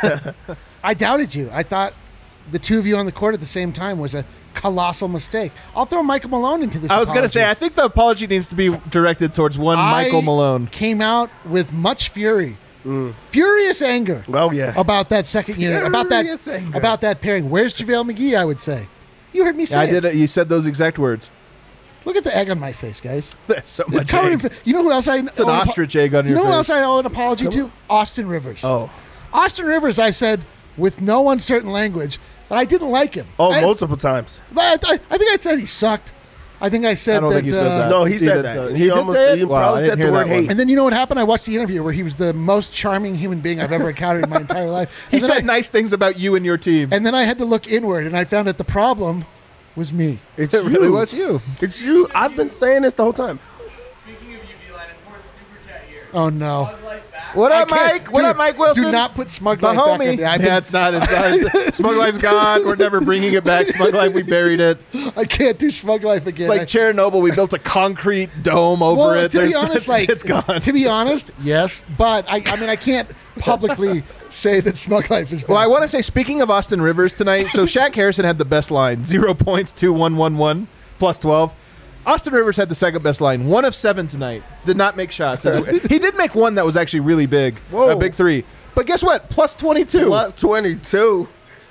I doubted you. I thought the two of you on the court at the same time was a colossal mistake. I'll throw Michael Malone into this. I was going to say I think the apology needs to be directed towards one Michael Malone. Came out with much fury, furious anger. Well, yeah. About that second unit, Furious anger. about that pairing. Where's JaVale McGee? I would say. You heard me say I it. did it. You said those exact words. Look at the egg on my face, guys. That's so It's much. covered in. egg. You know who else I? It's an ostrich egg on You your know who face. else I owe an apology to? Austin Rivers. Oh. Austin Rivers. I said with no uncertain language that I didn't like him. Oh, I, multiple times. I think I said he sucked. I think I said I don't that. think you said that. No, he said did that. say- He did almost- say it? he Wow, I probably didn't said the hear word that one. hate. And then you know what happened? I watched the interview where he was the most charming human being I've ever encountered in my entire life. He And then said I- nice things about you and your team. And then I had to look inward, and I found that the problem was me. It's it really you. was you. It's you. I've been saying this the whole time. Speaking of you, D-Line, important super chat here. Oh no! Smug Life back. What up, I can't- Mike? What dude, up, Mike Wilson? Do not put Smug the Life back on homie. me. I've Yeah, it's not. Smug Life's gone. We're never bringing it back. Smug Life, we buried it. I can't do Smug Life again. It's like Chernobyl. We built a concrete dome over well, it. to be There's- honest, like it's gone. to be honest, yes, but I mean, I can't publicly say that Smug Life is. Well, I bad. want to say, speaking of Austin Rivers tonight, so Shaq Harrison had the best line, 0 points, 2-1-1-1, plus 12. Austin Rivers had the second best line, 1 of 7 tonight. Did not make shots. He did make one that was actually really big, Whoa. a big 3. But guess what? Plus 22. Plus 22.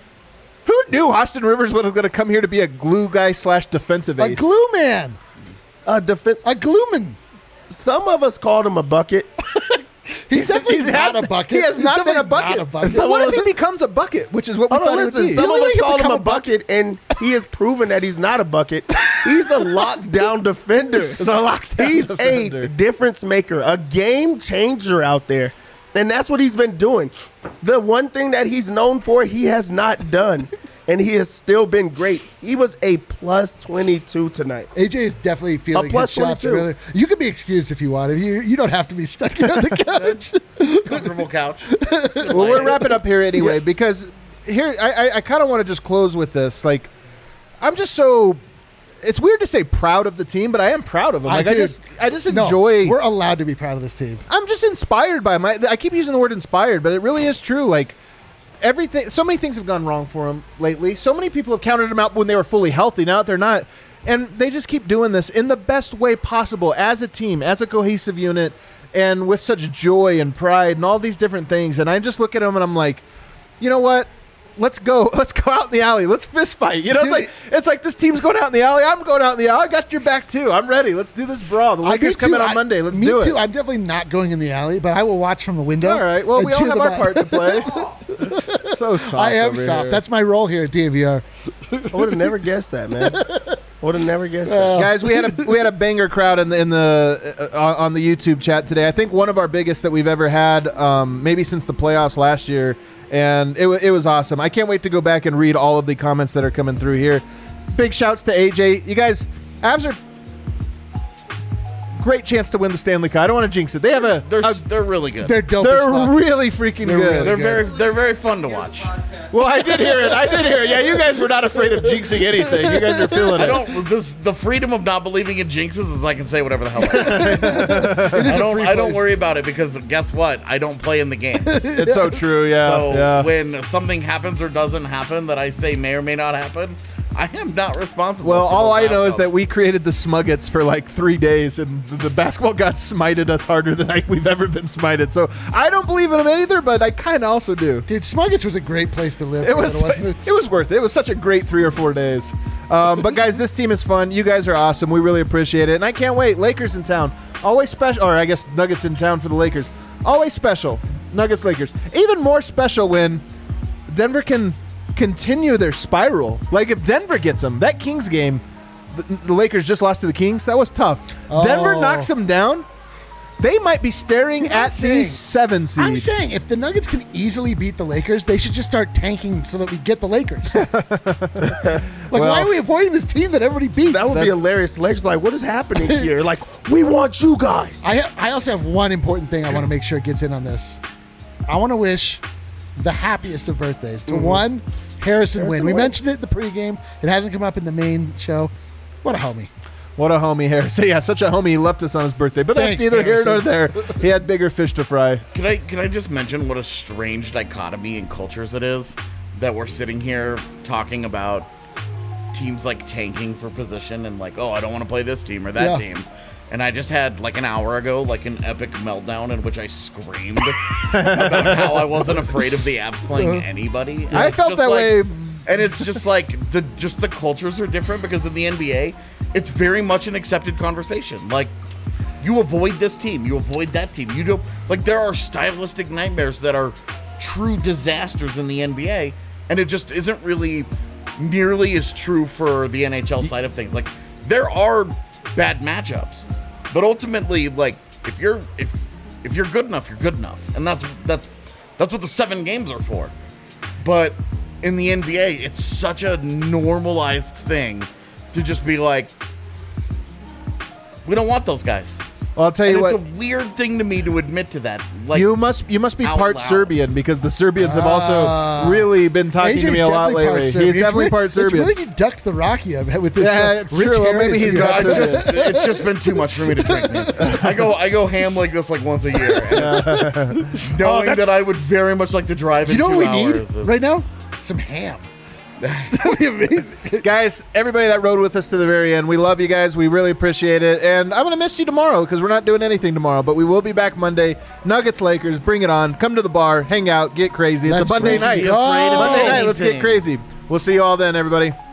Who knew Austin Rivers was going to come here to be a glue guy / defensive a ace? glue man, Defense. a glueman. Some of us called him a bucket. He's definitely not has- a bucket. He has He's not been a definitely bucket. not a bucket. So what if he Listen- becomes a bucket, which is what we Hold on, thought it would listen. be? Some only of way us he can called him become a a bucket- bucket, and he has proven that he's not a bucket. He's a lockdown defender. The lockdown He's defender. a difference maker, a game changer out there. And that's what he's been doing. The one thing that he's known for, he has not done. And he has still been great. He was a plus 22 tonight. AJ is definitely feeling plus his shots 22. earlier. You can be excused if you want. You don't have to be stuck here on the couch. Comfortable couch. Well, we're wrapping up here anyway because here I kind of want to just close with this. Like, I'm just so. It's weird to say proud of the team, but I am proud of them. Like, I do. just No, enjoy. we're allowed to be proud of this team. I'm just inspired by I keep using the word inspired, but it really is true. Like, everything. So many things have gone wrong for them lately. So many people have counted them out when they were fully healthy. Now that they're not, and they just keep doing this in the best way possible as a team, as a cohesive unit, and with such joy and pride and all these different things. And I just look at them and I'm like, you know what? Let's go. Let's go out in the alley. Let's fist fight. You know, Dude, it's like this team's going out in the alley. I'm going out in the alley. I got your back too. I'm ready. Let's do this brawl. The Lakers come in on Monday. Let's me do it. too. I'm definitely not going in the alley, but I will watch from the window. All right. Well, and we all cheer have them our on. part to play. So soft. I am over soft. here. That's my role here at DNVR. I would have never guessed that, man. Would have never guessed that. Guys, we had a banger crowd in the on the YouTube chat today. I think one of our biggest that we've ever had, maybe since the playoffs last year, and it was awesome. I can't wait to go back and read all of the comments that are coming through here. Big shouts to AJ. You guys, Avs are great chance to win the Stanley Cup. I don't want to jinx it. They have They're really good. They're dope. as they're fuck. really freaking They're good. really They're very fun to watch. Well, I did hear it. Yeah, you guys were not afraid of jinxing anything. You guys are feeling I it. don't. The freedom of not believing in jinxes is I can say whatever the hell I want. I don't worry about it because guess what? I don't play in the games. It's so true. Yeah. So yeah. when something happens or doesn't happen that I say may or may not happen, I am not responsible. Well, for all those I know is that outcomes. we created the Smuggets for like 3 days, and the basketball gods smited us harder than we've ever been smited. So I don't believe in them either, but I kind of also do. Dude, Smuggets was a great place to live. It was wasn't it? it was worth it. It was such a great 3 or 4 days. But guys, this team is fun. You guys are awesome. We really appreciate it, and I can't wait. Lakers in town, always special. Or I guess Nuggets in town for the Lakers, always special. Nuggets Lakers. Even more special when Denver can continue their spiral. Like if Denver gets them, that Kings game, the Lakers just lost to the Kings. That was tough. Denver knocks them down. They might be staring at the 7 seed. I'm saying if the Nuggets can easily beat the Lakers, they should just start tanking so that we get the Lakers. Why are we avoiding this team that everybody beats? That would be hilarious. Lakers like, what is happening here? Like, we want you guys. I also have one important thing I want to make sure gets in on this. I want to wish the happiest of birthdays to one Harrison Wynn. We mentioned it in the pregame. It hasn't come up in the main show. What a homie. What a homie, Harrison. Yeah, such a homie. He left us on his birthday. But that's Thanks, neither Harrison. here nor there. He had bigger fish to fry. Can I just mention what a strange dichotomy in cultures it is that we're sitting here talking about teams like tanking for position and like, oh, I don't want to play this team or that team. And I just had like an hour ago like an epic meltdown in which I screamed about how I wasn't afraid of the Avs playing anybody. And I it's felt just that like- way. And it's just like the cultures are different because in the NBA, it's very much an accepted conversation. Like you avoid this team, you avoid that team. You don't like there are stylistic nightmares that are true disasters in the NBA, and it just isn't really nearly as true for the NHL side of things. Like there are bad matchups, but ultimately, like if you're good enough, you're good enough, and that's what the 7 games are for. But in the NBA, it's such a normalized thing to just be like, we don't want those guys. Well, I'll tell you And what. it's a weird thing to me to admit to that. Like You must be out part loud. Serbian because the Serbians have also really been talking to AJ's me a lot definitely part lately. Serbian. He's definitely It's part weird- Serbian. It's weird you ducked the Rocky with this Yeah, it's rich true. Well, heritage maybe he's you not got. Serbian. it's just been too much for me to drink. Man. I go ham like this like once a year. And it's- knowing that I would very much like to drive in You know 2 what we need hours. is- right now? Some ham. That'd be amazing. Guys, everybody that rode with us to the very end, we love you guys. We really appreciate it. And I'm going to miss you tomorrow because we're not doing anything tomorrow, but we will be back Monday. Nuggets, Lakers, bring it on. Come to the bar, hang out, get crazy. It's Let's a Monday freaking night. go. Monday night, let's get Anything. crazy. We'll see you all then, everybody.